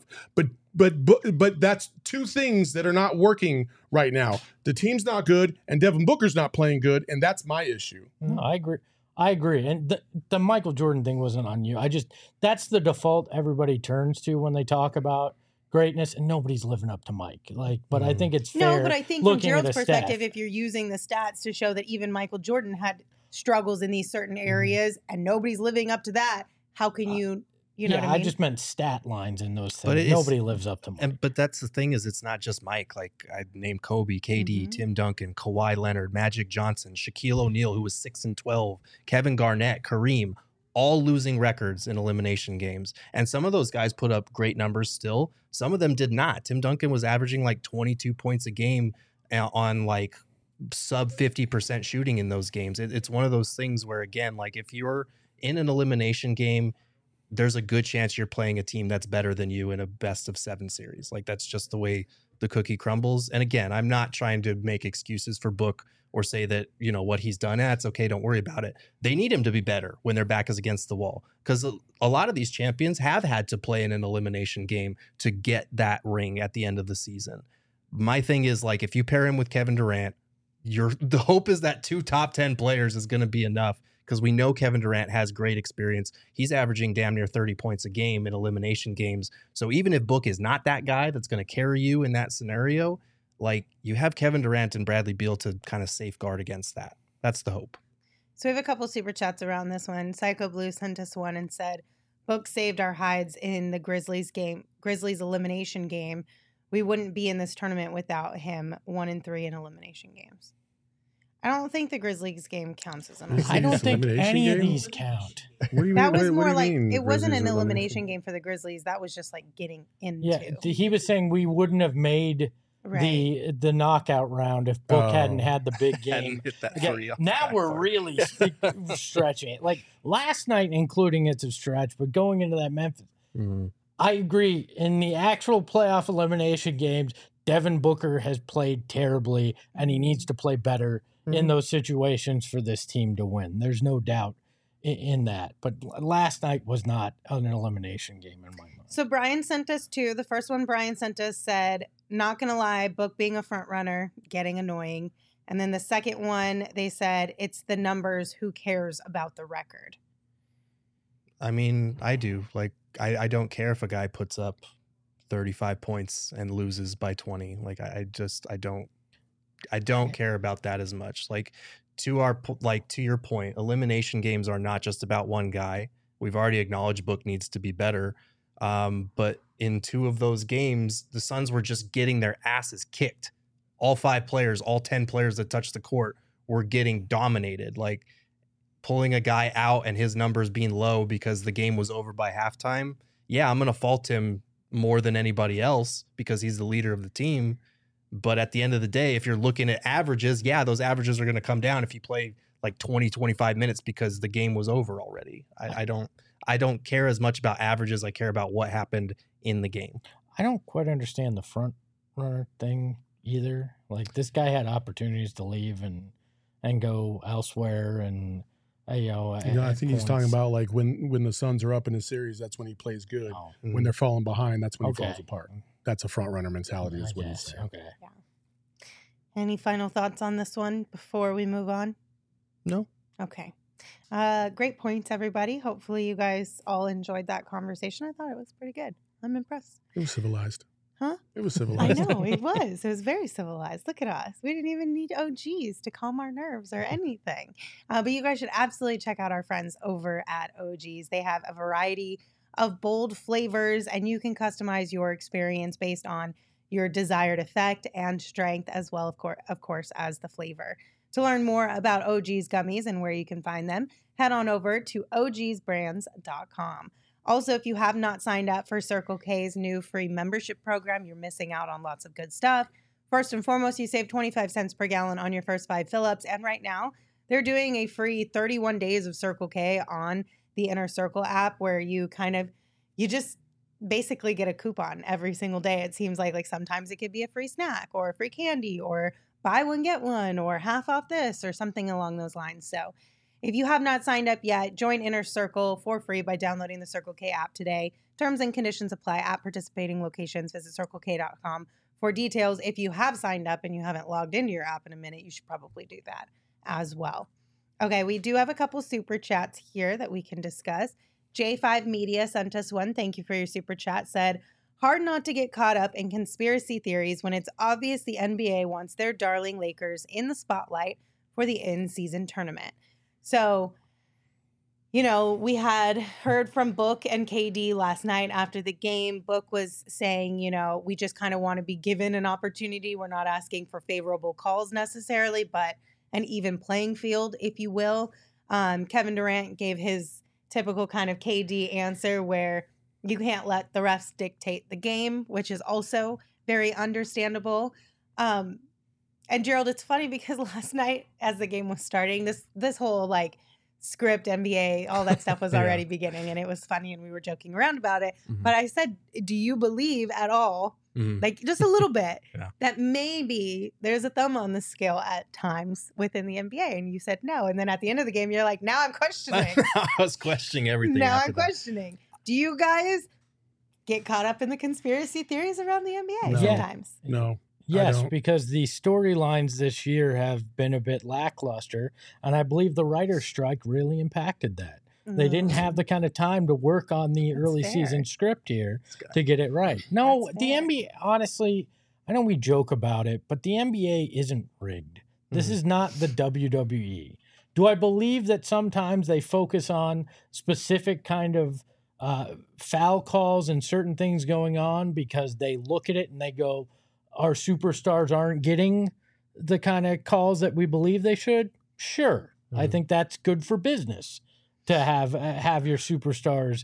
But that's 2 things that are not working right now. The team's not good, and Devin Booker's not playing good, and that's my issue. No, I agree. And the Michael Jordan thing wasn't on you. That's the default everybody turns to when they talk about greatness, and nobody's living up to Mike. But I think it's fair. No, but I think from looking at Gerald's the perspective, staff. if you're using the stats to show that even Michael Jordan had struggles in these certain areas and nobody's living up to that, how can you know yeah, what I mean? I just meant stat lines in those But things. it's- Nobody lives up to Mike. But that's the thing, is it's not just Mike. Like, I named Kobe, KD, Mhm. Tim Duncan, Kawhi Leonard, Magic Johnson, Shaquille O'Neal, who was 6-12, Kevin Garnett, Kareem, all losing records in elimination games. And some of those guys put up great numbers still. Some of them did not. Tim Duncan was averaging like 22 points a game on like sub 50% shooting in those games. It's one of those things where, again, like if you're in an elimination game, there's a good chance you're playing a team that's better than you in a best of 7 series. Like, that's just the way the cookie crumbles. And again, I'm not trying to make excuses for Book or say that, what he's done, it's okay, don't worry about it. They need him to be better when their back is against the wall, because a lot of these champions have had to play in an elimination game to get that ring at the end of the season. My thing is, like, if you pair him with Kevin Durant, the hope is that 2 top 10 players is going to be enough, because we know Kevin Durant has great experience. He's averaging damn near 30 points a game in elimination games. So even if Book is not that guy that's going to carry you in that scenario, like, you have Kevin Durant and Bradley Beal to kind of safeguard against that. That's the hope. So we have a couple super chats around this one. Psycho Blue sent us one and said, Book saved our hides in the Grizzlies elimination game. We wouldn't be in this tournament without him. 1-3 in elimination games. I don't think the Grizzlies game counts as an You I don't This think elimination any of game? these count. What do you That mean? was what more do you like, mean it wasn't Grizzlies an are elimination game for the Grizzlies. That was just like getting into. Yeah, he was saying we wouldn't have made Right. the knockout round if Book hadn't Oh. had the big game. Hadn't hit that Again, three off now the we're backboard. really stretching it. Like last night, including it's a stretch, but going into that Memphis, Mhm. I agree. In the actual playoff elimination games, Devin Booker has played terribly, and he needs to play better in those situations for this team to win. There's no doubt in that. But last night was not an elimination game in my mind. So Brian sent us two. The first one Brian sent us said, not going to lie, Book being a front runner, getting annoying. And then the second one, they said, it's the numbers. Who cares about the record? I mean, I do. Like, I don't care if a guy puts up 35 points and loses by 20. Like, I don't care about that as much. Like, to your point, elimination games are not just about one guy. We've already acknowledged Book needs to be better. But in 2 of those games, the Suns were just getting their asses kicked. All 5 players, all 10 players that touched the court were getting dominated. Like, pulling a guy out and his numbers being low because the game was over by halftime. Yeah, I'm going to fault him more than anybody else because he's the leader of the team. But at the end of the day, if you're looking at averages, yeah, those averages are going to come down if you play like 20, 25 minutes because the game was over already. I don't care as much about averages. I care about what happened in the game. I don't quite understand the front runner thing either. Like this guy had opportunities to leave and go elsewhere, and I think he's talking about like when the Suns are up in a series, that's when he plays good. Oh, When they're falling behind, that's when Okay. he falls apart. That's a front runner mentality, I is what he's guess. saying. Okay. Any final thoughts on this one before we move on? No. Okay. Great points, everybody. Hopefully you guys all enjoyed that conversation. I thought it was pretty good. I'm impressed. It was civilized. Huh? It was I civilized. know, it was. It was very civilized. Look at us. We didn't even need OGs to calm our nerves or anything. But you guys should absolutely check out our friends over at OGs. They have a variety of bold flavors, and you can customize your experience based on your desired effect and strength, as well, of course, as the flavor. To learn more about OG's gummies and where you can find them, head on over to ogsbrands.com. Also, if you have not signed up for Circle K's new free membership program, you're missing out on lots of good stuff. First and foremost, you save 25 cents per gallon on your first 5 fill-ups. And right now, they're doing a free 31 days of Circle K on the Inner Circle app, where you just basically get a coupon every single day. It seems like sometimes it could be a free snack or a free candy or buy one, get one, or half off this or something along those lines. So if you have not signed up yet, join Inner Circle for free by downloading the Circle K app today. Terms and conditions apply at participating locations. Visit CircleK.com for details. If you have signed up and you haven't logged into your app in a minute, you should probably do that as well. Okay, we do have a couple super chats here that we can discuss. J5 Media sent us one. Thank you for your super chat. Said, Hard not to get caught up in conspiracy theories when it's obvious the NBA wants their darling Lakers in the spotlight for the in-season tournament. So, you know, we had heard from Book and KD last night after the game. Book was saying, you know, we just kind of want to be given an opportunity. We're not asking for favorable calls necessarily, but an even playing field, if you will. Kevin Durant gave his typical kind of KD answer where you can't let the refs dictate the game, which is also very understandable. And Gerald, it's funny because last night as the game was starting, this whole like script, NBA, all that stuff was already beginning, and it was funny and we were joking around about it. Mhm. But I said, do you believe at all, like just a little bit, that maybe there's a thumb on the scale at times within the NBA? And you said no. And then at the end of the game, you're like, now I'm questioning. I was questioning everything. Now after I'm that. questioning. Do you guys get caught up in the conspiracy theories around the NBA No. sometimes? No. Yes, don't. because the storylines this year have been a bit lackluster, and I believe the writer's strike really impacted that. They didn't have the kind of time to work on the That's early fair. season script here to get it right. No, That's the fair. NBA, honestly, I know we joke about it, but the NBA isn't rigged. This Mhm. is not the WWE. Do I believe that sometimes they focus on specific kind of foul calls and certain things going on because they look at it and they go, our superstars aren't getting the kind of calls that we believe they should? Sure. I Mhm. think that's good for business to have your superstars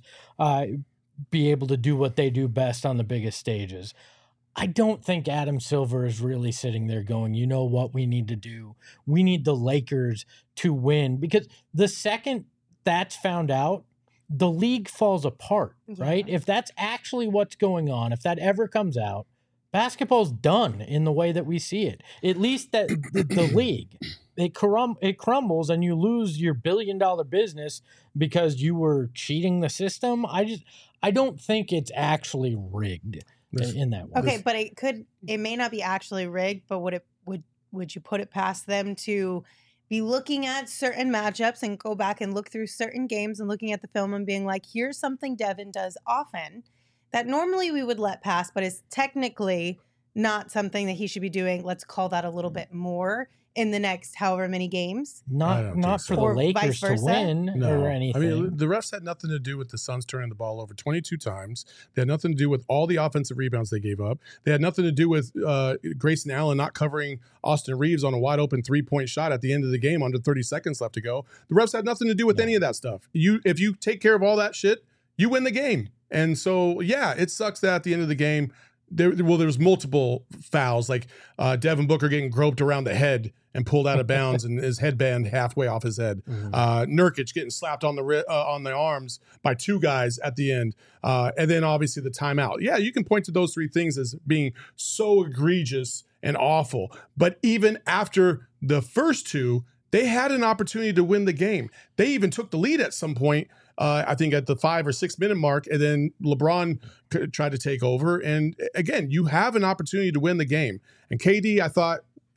be able to do what they do best on the biggest stages. I don't think Adam Silver is really sitting there going, you know what we need to do? We need the Lakers to win, because the second that's found out, the league falls apart, right? Yeah. If that's actually what's going on, if that ever comes out, basketball's done in the way that we see it. At least that the league, it crumbles and you lose your billion-dollar business because you were cheating the system. I don't think it's actually rigged in that way. Okay, but it may not be actually rigged, but would you put it past them to be looking at certain matchups and go back and look through certain games and looking at the film and being like, here's something Devin does often that normally we would let pass, but is technically not something that he should be doing. Let's call that a little bit more in the next however many games. I don't think Not so. for the Or vice Lakers to versa? win No. or anything. I mean, the refs had nothing to do with the Suns turning the ball over 22 times. They had nothing to do with all the offensive rebounds they gave up. They had nothing to do with Grayson Allen not covering Austin Reeves on a wide open 3-point shot at the end of the game under 30 seconds left to go. The refs had nothing to do with any of that stuff. If you take care of all that shit, you win the game. And so, yeah, it sucks that at the end of the game, there was multiple fouls, like Devin Booker getting groped around the head and pulled out of bounds and his headband halfway off his head. Nurkic getting slapped on the arms by two guys at the end. And then obviously the timeout. Yeah, you can point to those three things as being so egregious and awful. But even after the first two, they had an opportunity to win the game. They even took the lead at some point, I think at the 5 or 6 minute mark, and then LeBron tried to take over. And again, you have an opportunity to win the game. And KD, I thought,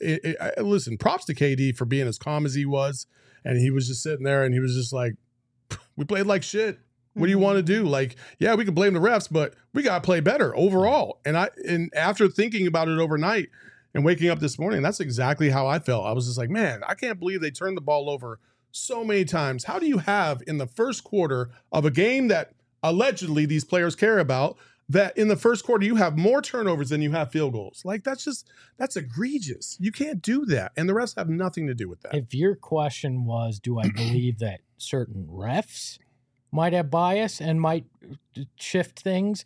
listen, props to KD for being as calm as he was. And he was just sitting there and he was just like, we played like shit. What do you want to do? Like, yeah, we can blame the refs, but we got to play better overall. And after thinking about it overnight and waking up this morning, that's exactly how I felt. I was just like, man, I can't believe they turned the ball over so many times. How do you have in the first quarter of a game that allegedly these players care about, that in the first quarter you have more turnovers than you have field goals? Like, that's egregious. You can't do that. And the refs have nothing to do with that. If your question was, do I believe that certain refs might have bias and might shift things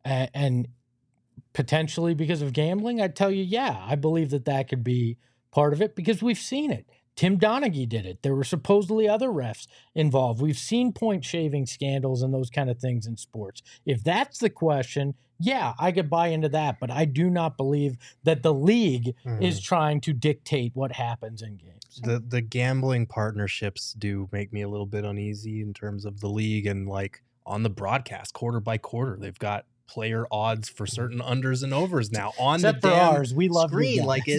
and potentially because of gambling, I'd tell you, yeah, I believe that could be part of it because we've seen it. Tim Donaghy did it. There were supposedly other refs involved. We've seen point shaving scandals and those kind of things in sports. If that's the question, yeah, I could buy into that. But I do not believe that the league is trying to dictate what happens in games. The gambling partnerships do make me a little bit uneasy in terms of the league and like on the broadcast quarter by quarter. They've got player odds for certain unders and overs now on Except the for damn ours, we love you screen. guys. Like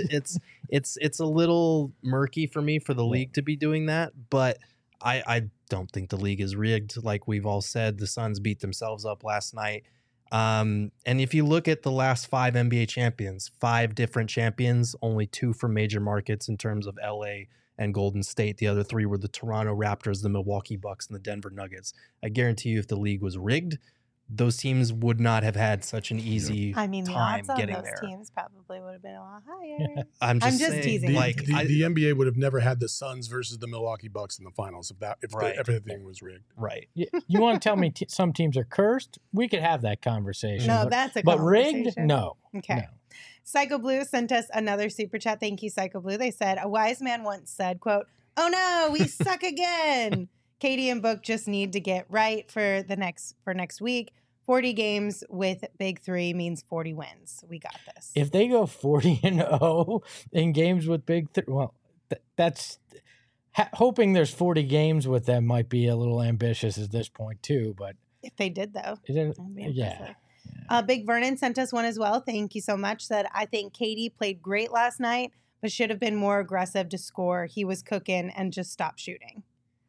it's a little murky for me for the league to be doing that, but I don't think the league is rigged. Like we've all said, the Suns beat themselves up last night. And if you look at the last 5 NBA champions, 5 different champions, only 2 from major markets in terms of LA and Golden State. The other 3 were the Toronto Raptors, the Milwaukee Bucks, and the Denver Nuggets. I guarantee you if the league was rigged, those teams would not have had such an easy I mean, the time odds on getting those there. teams probably would have been a lot higher. I'm just just saying, teasing. like, The NBA would have never had the Suns versus the Milwaukee Bucks in the finals if Right. everything was rigged. right. You want to tell me some teams are cursed? We could have that conversation. No, but, that's a but rigged? conversation. No. Okay. No. Psycho Blue sent us another super chat. Thank you, Psycho Blue. They said, a wise man once said, quote, "Oh no, we suck again." Katie and Book just need to get right for next week. 40 games with Big 3 means 40 wins. We got this. If they go 40-0 in games with Big 3, well, that's hoping there's 40 games with them might be a little ambitious at this point too. But if they did, though, it, that'd be yeah. impressive. Big Vernon sent us one as well. Thank you so much. Said, I think Katie played great last night, but should have been more aggressive to score. He was cooking and just stopped shooting.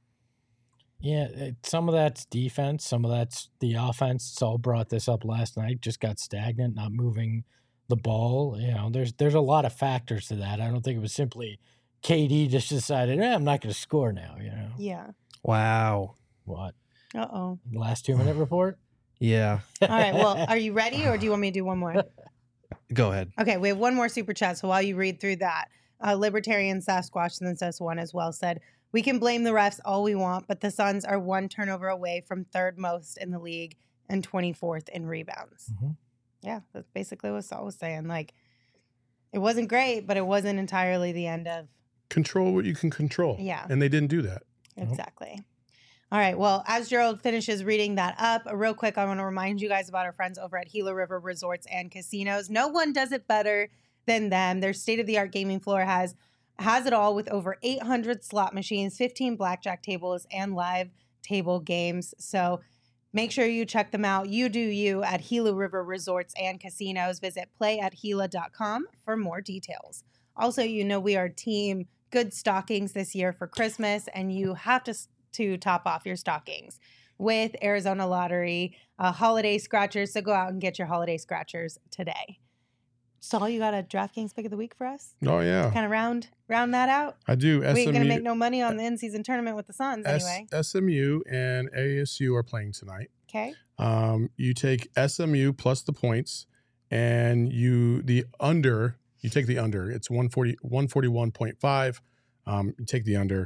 Yeah, some of that's defense, some of that's the offense. Saul brought this up last night. Just got stagnant, not moving the ball. You know, there's a lot of factors to that. I don't think it was simply KD just decided, I'm not going to score now. You know. Yeah. Wow. What? Uh-oh. Last 2-minute report. Yeah. All right. Well, are you ready, or do you want me to do one more? Go ahead. Okay, we have one more super chat. So while you read through that, Libertarian Sasquatch sent us one as well. Said, we can blame the refs all we want, but the Suns are 1 turnover away from 3rd most in the league and 24th in rebounds. Mm-hmm. Yeah, that's basically what Saul was saying. Like, it wasn't great, but it wasn't entirely the end of. Control what you can control. Yeah. And they didn't do that. Exactly. All right. Well, as Gerald finishes reading that up, real quick, I want to remind you guys about our friends over at Gila River Resorts and Casinos. No one does it better than them. Their state-of-the-art gaming floor has it all with over 800 slot machines, 15 blackjack tables, and live table games. So make sure you check them out. You do you at Gila River Resorts and Casinos. Visit playatgila.com for more details. Also, you know we are team good stockings this year for Christmas, and you have to top off your stockings with Arizona Lottery holiday scratchers. So go out and get your holiday scratchers today. Saul, you got a DraftKings pick of the week for us? Oh, yeah. Kind of round that out? I do. We ain't going to make no money on the in-season tournament with the Suns anyway. SMU and ASU are playing tonight. Okay. You take SMU plus the points, and you take the under. It's 141.5. You take the under.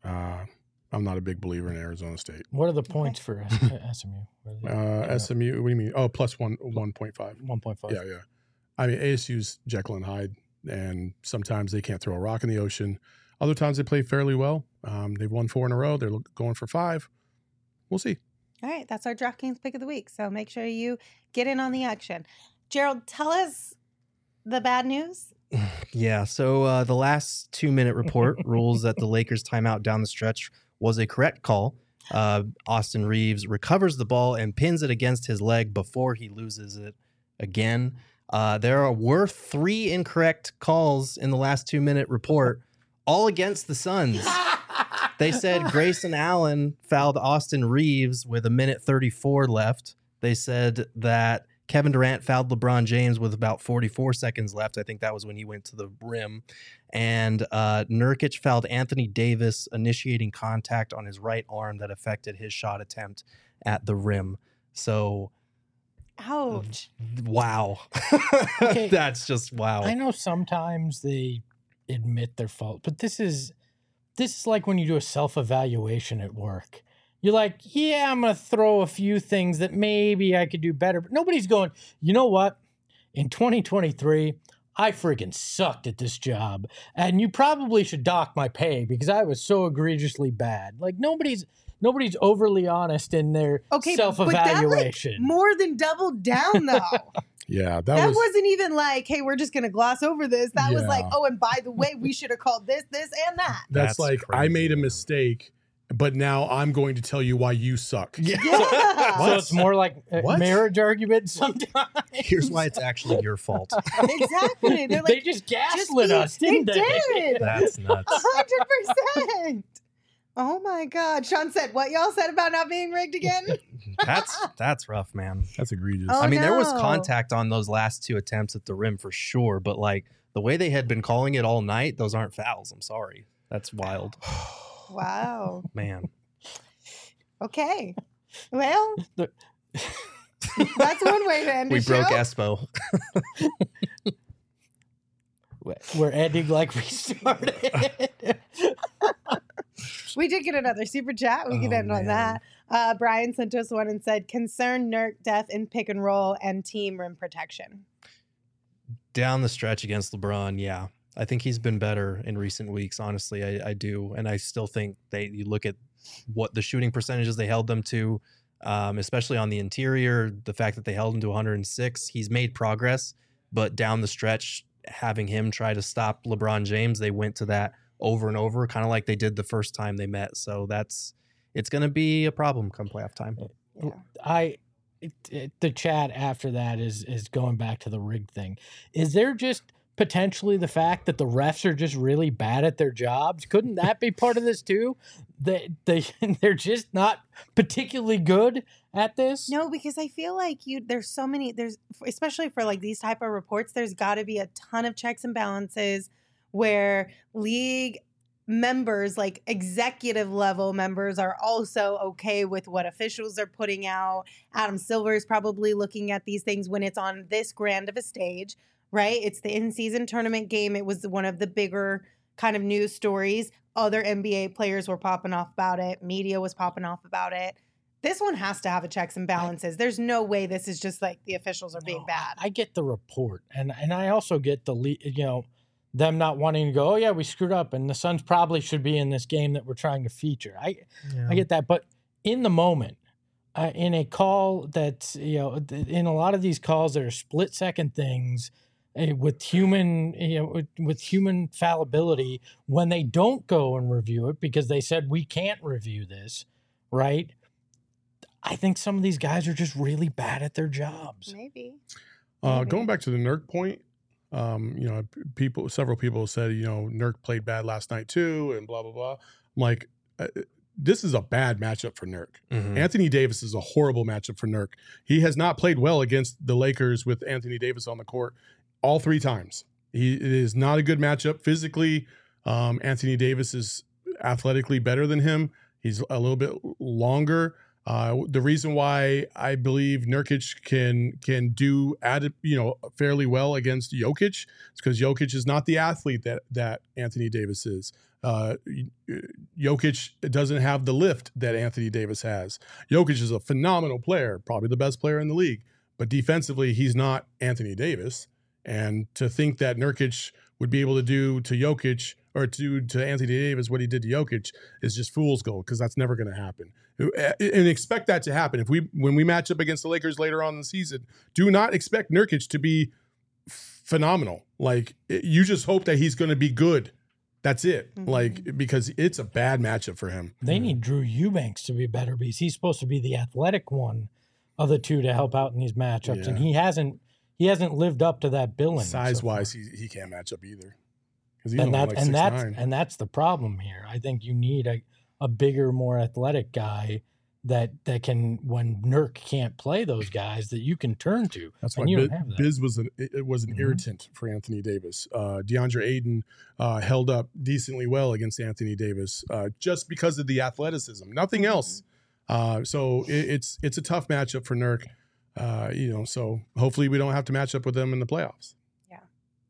I'm not a big believer in Arizona State. What are the points for SMU? SMU, what do you mean? Oh, plus 1.5. 1.5. Yeah. I mean, ASU's Jekyll and Hyde, and sometimes they can't throw a rock in the ocean. Other times they play fairly well. They've won 4 in a row. They're going for 5. We'll see. All right. That's our DraftKings pick of the week. So make sure you get in on the action. Gerald, tell us the bad news. Yeah. So the last 2-minute report rules that the Lakers timeout down the stretch was a correct call. Austin Reeves recovers the ball and pins it against his leg before he loses it again. There were 3 incorrect calls in the last 2-minute report, all against the Suns. They said Grayson Allen fouled Austin Reeves with 1:34 left. They said that Kevin Durant fouled LeBron James with about 44 seconds left. I think that was when he went to the rim. And Nurkic fouled Anthony Davis, initiating contact on his right arm that affected his shot attempt at the rim. So... Ouch. Wow. Okay. That's just wow. I know sometimes they admit their fault, but this is like when you do a self-evaluation at work. You're like, yeah, I'm going to throw a few things that maybe I could do better. But nobody's going, you know what? In 2023, I freaking sucked at this job. And you probably should dock my pay because I was so egregiously bad. Like nobody's overly honest in their self-evaluation. But that, more than doubled down, though. Yeah, that wasn't even like, hey, we're just going to gloss over this. That was like, oh, and by the way, we should have called this, and that. That's like, crazy. I made a mistake, but now I'm going to tell you why you suck. Yeah. So it's more like a marriage argument sometimes. Here's why it's actually your fault. Exactly. They're like, they just gaslit us, didn't they? They did. That's nuts. 100%. Oh my God. Sean said, what y'all said about not being rigged again? That's rough, man. That's egregious. Oh, I mean, there was no. contact on those last 2 attempts at the rim for sure, but like the way they had been calling it all night, those aren't fouls. I'm sorry. That's wild, Wow. man. Okay. Well, that's one way to end We the broke show. Espo. We're ending like we started. We did get another super chat. We can Oh, end on man. that. Brian sent us one and said, concern Nurk death in pick and roll and team rim protection. Down the stretch against LeBron, yeah. I think he's been better in recent weeks, honestly. I do. And I still think you look at what the shooting percentages they held them to, especially on the interior, the fact that they held him to 106, he's made progress. But down the stretch, having him try to stop LeBron James, they went to that over and over, kind of like they did the first time they met. So it's going to be a problem come playoff time. Yeah. The chat after that is going back to the rig thing. Is there just potentially the fact that the refs are just really bad at their jobs? Couldn't that be part of this too? They're just not particularly good at this. No, because I feel like there's especially for like these type of reports, there's got to be a ton of checks and balances where league members, like executive level members, are also okay with what officials are putting out. Adam Silver is probably looking at these things when it's on this grand of a stage, right? It's the in-season tournament game. It was one of the bigger kind of news stories. Other NBA players were popping off about it. Media was popping off about it. This one has to have a checks and balances. There's no way this is just like the officials are being bad. I get the report, and I also get them not wanting to go, oh yeah, we screwed up, and the Suns probably should be in this game that we're trying to feature. I get that, but in the moment, in a call that's in a lot of these calls that are split second things with human fallibility, when they don't go and review it because they said we can't review this, right? I think some of these guys are just really bad at their jobs. Maybe. Going back to the Nurk point, several people said, Nurk played bad last night too, and blah, blah, blah. I'm like, this is a bad matchup for Nurk. Mhm. Anthony Davis is a horrible matchup for Nurk. He has not played well against the Lakers with Anthony Davis on the court all 3 times. It is not a good matchup physically. Anthony Davis is athletically better than him. He's a little bit longer. The reason why I believe Nurkic can do fairly well against Jokic is because Jokic is not the athlete that Anthony Davis is. Jokic doesn't have the lift that Anthony Davis has. Jokic is a phenomenal player, probably the best player in the league, but defensively he's not Anthony Davis. And to think that Nurkic would be able to do to Jokic or to Anthony Davis what he did to Jokic is just fool's gold, because that's never going to happen. And expect that to happen. When we match up against the Lakers later on in the season, do not expect Nurkic to be phenomenal. Like, you just hope that he's going to be good. That's it. Mm-hmm. Like, because it's a bad matchup for him. They need Drew Eubanks to be better because he's supposed to be the athletic one of the two to help out in these matchups, and he hasn't lived up to that billing. Size wise, he can't match up either. Because That's the problem here. I think you need a bigger, more athletic guy that can, when Nurk can't play those guys, that you can turn to. That's and why you don't have that. Biz was an irritant for Anthony Davis. DeAndre Ayton held up decently well against Anthony Davis just because of the athleticism, nothing else. So it's a tough matchup for Nurk. So hopefully we don't have to match up with them in the playoffs. Yeah.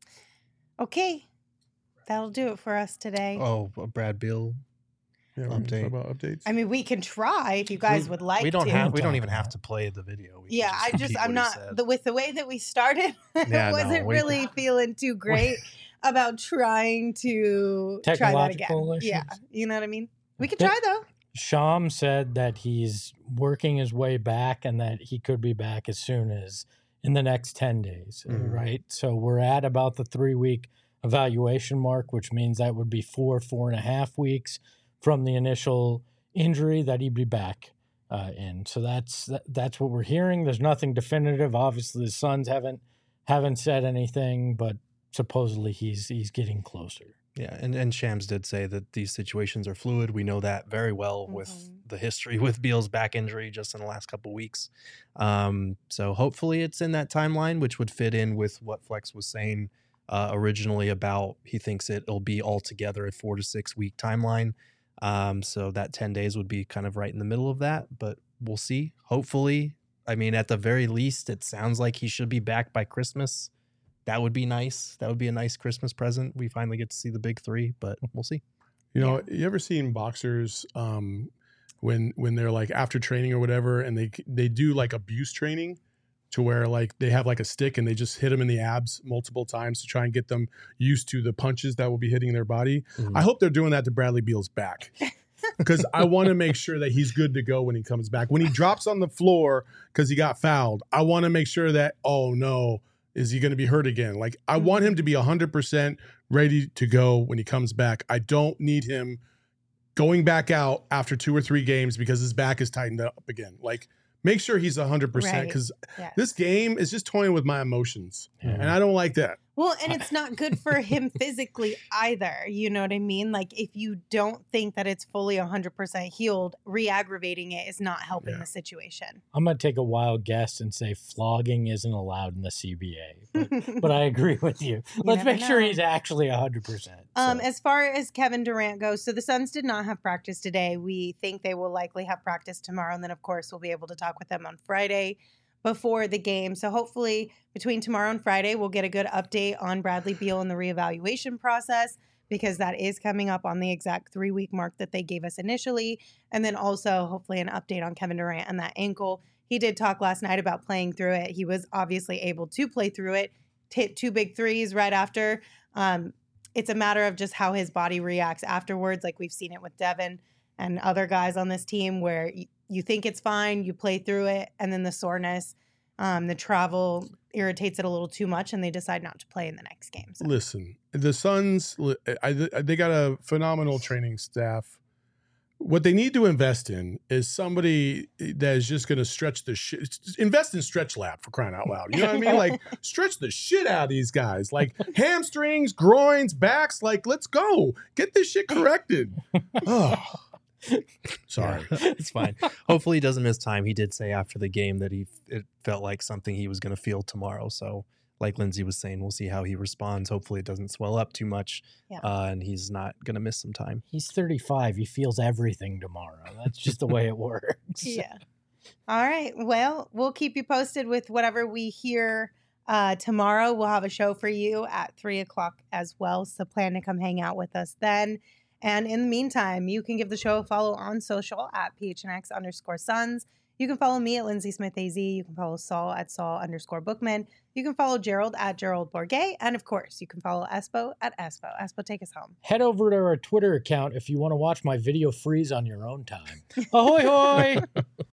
Okay. That'll do it for us today. Oh, Brad Beal. Yeah, we're Update. talk about updates. I mean, we can try if you guys would like We don't to. have. We don't talk even about have it. to play the video. We can Yeah, repeat what I'm he not said. with the way that we started. Yeah, no, wasn't we- really feeling too great about trying to try that again. Technological issues. Yeah, you know what I mean. We could try though. Sham said that he's working his way back and that he could be back as soon as in the next 10 days, Mhm. right? So we're at about the 3-week evaluation mark, which means that would be 4.5 weeks from the initial injury that he'd be back in. So that's what we're hearing. There's nothing definitive. Obviously, the Suns haven't said anything, but supposedly he's getting closer. Yeah, and Shams did say that these situations are fluid. We know that very well with the history with Beal's back injury just in the last couple weeks. So hopefully it's in that timeline, which would fit in with what Flex was saying originally about he thinks it'll be altogether a 4 to 6 week timeline. So that 10 days would be kind of right in the middle of that, but we'll see. Hopefully, I mean, at the very least, it sounds like he should be back by Christmas. That would be nice. That would be a nice Christmas present. We finally get to see the big three, but we'll see. You know, you ever seen boxers when they're like after training or whatever, and they do like abuse training to where like they have like a stick and they just hit them in the abs multiple times to try and get them used to the punches that will be hitting their body. Mhm. I hope they're doing that to Bradley Beal's back. Because I want to make sure that he's good to go when he comes back. When he drops on the floor because he got fouled, I want to make sure that, oh no, is he going to be hurt again? Like, I want him to be 100% ready to go when he comes back. I don't need him going back out after 2 or 3 games because his back is tightened up again. Like, make sure he's 100% because this game is just toying with my emotions. And I don't like that. Well, and it's not good for him physically either. You know what I mean? Like, if you don't think that it's fully 100% healed, re-aggravating it is not helping the situation. I'm going to take a wild guess and say flogging isn't allowed in the CBA. But I agree with you. Let's make sure he's actually 100%. As far as Kevin Durant goes, so the Suns did not have practice today. We think they will likely have practice tomorrow. And then, of course, we'll be able to talk with them on Friday before the game. So hopefully between tomorrow and Friday, we'll get a good update on Bradley Beal and the reevaluation process, because that is coming up on the exact 3-week mark that they gave us initially. And then also hopefully an update on Kevin Durant and that ankle. He did talk last night about playing through it. He was obviously able to play through it, hit 2 big threes right after. It's a matter of just how his body reacts afterwards. Like we've seen it with Devin and other guys on this team where you think it's fine, you play through it, and then the soreness, the travel irritates it a little too much, and they decide not to play in the next game. So. Listen, the Suns, they got a phenomenal training staff. What they need to invest in is somebody that is just going to stretch the shit. Invest in Stretch Lab, for crying out loud. You know what I mean? Like, stretch the shit out of these guys. Like, hamstrings, groins, backs. Like, let's go. Get this shit corrected. Oh. Sorry. It's fine. Hopefully he doesn't miss time. He did say after the game that it felt like something he was going to feel tomorrow. So like Lindsay was saying, we'll see how he responds. Hopefully it doesn't swell up too much and he's not going to miss some time. He's 35. He feels everything tomorrow. That's just the way it works. Yeah. All right. Well, we'll keep you posted with whatever we hear tomorrow. We'll have a show for you at 3:00 as well. So plan to come hang out with us then. And in the meantime, you can give the show a follow on social at PHNX_Suns. You can follow me at Lindsay Smith AZ. You can follow Saul at Saul_Bookman. You can follow Gerald at Gerald Bourget. And of course, you can follow Espo at Espo. Espo, take us home. Head over to our Twitter account if you want to watch my video freeze on your own time. Ahoy, hoy!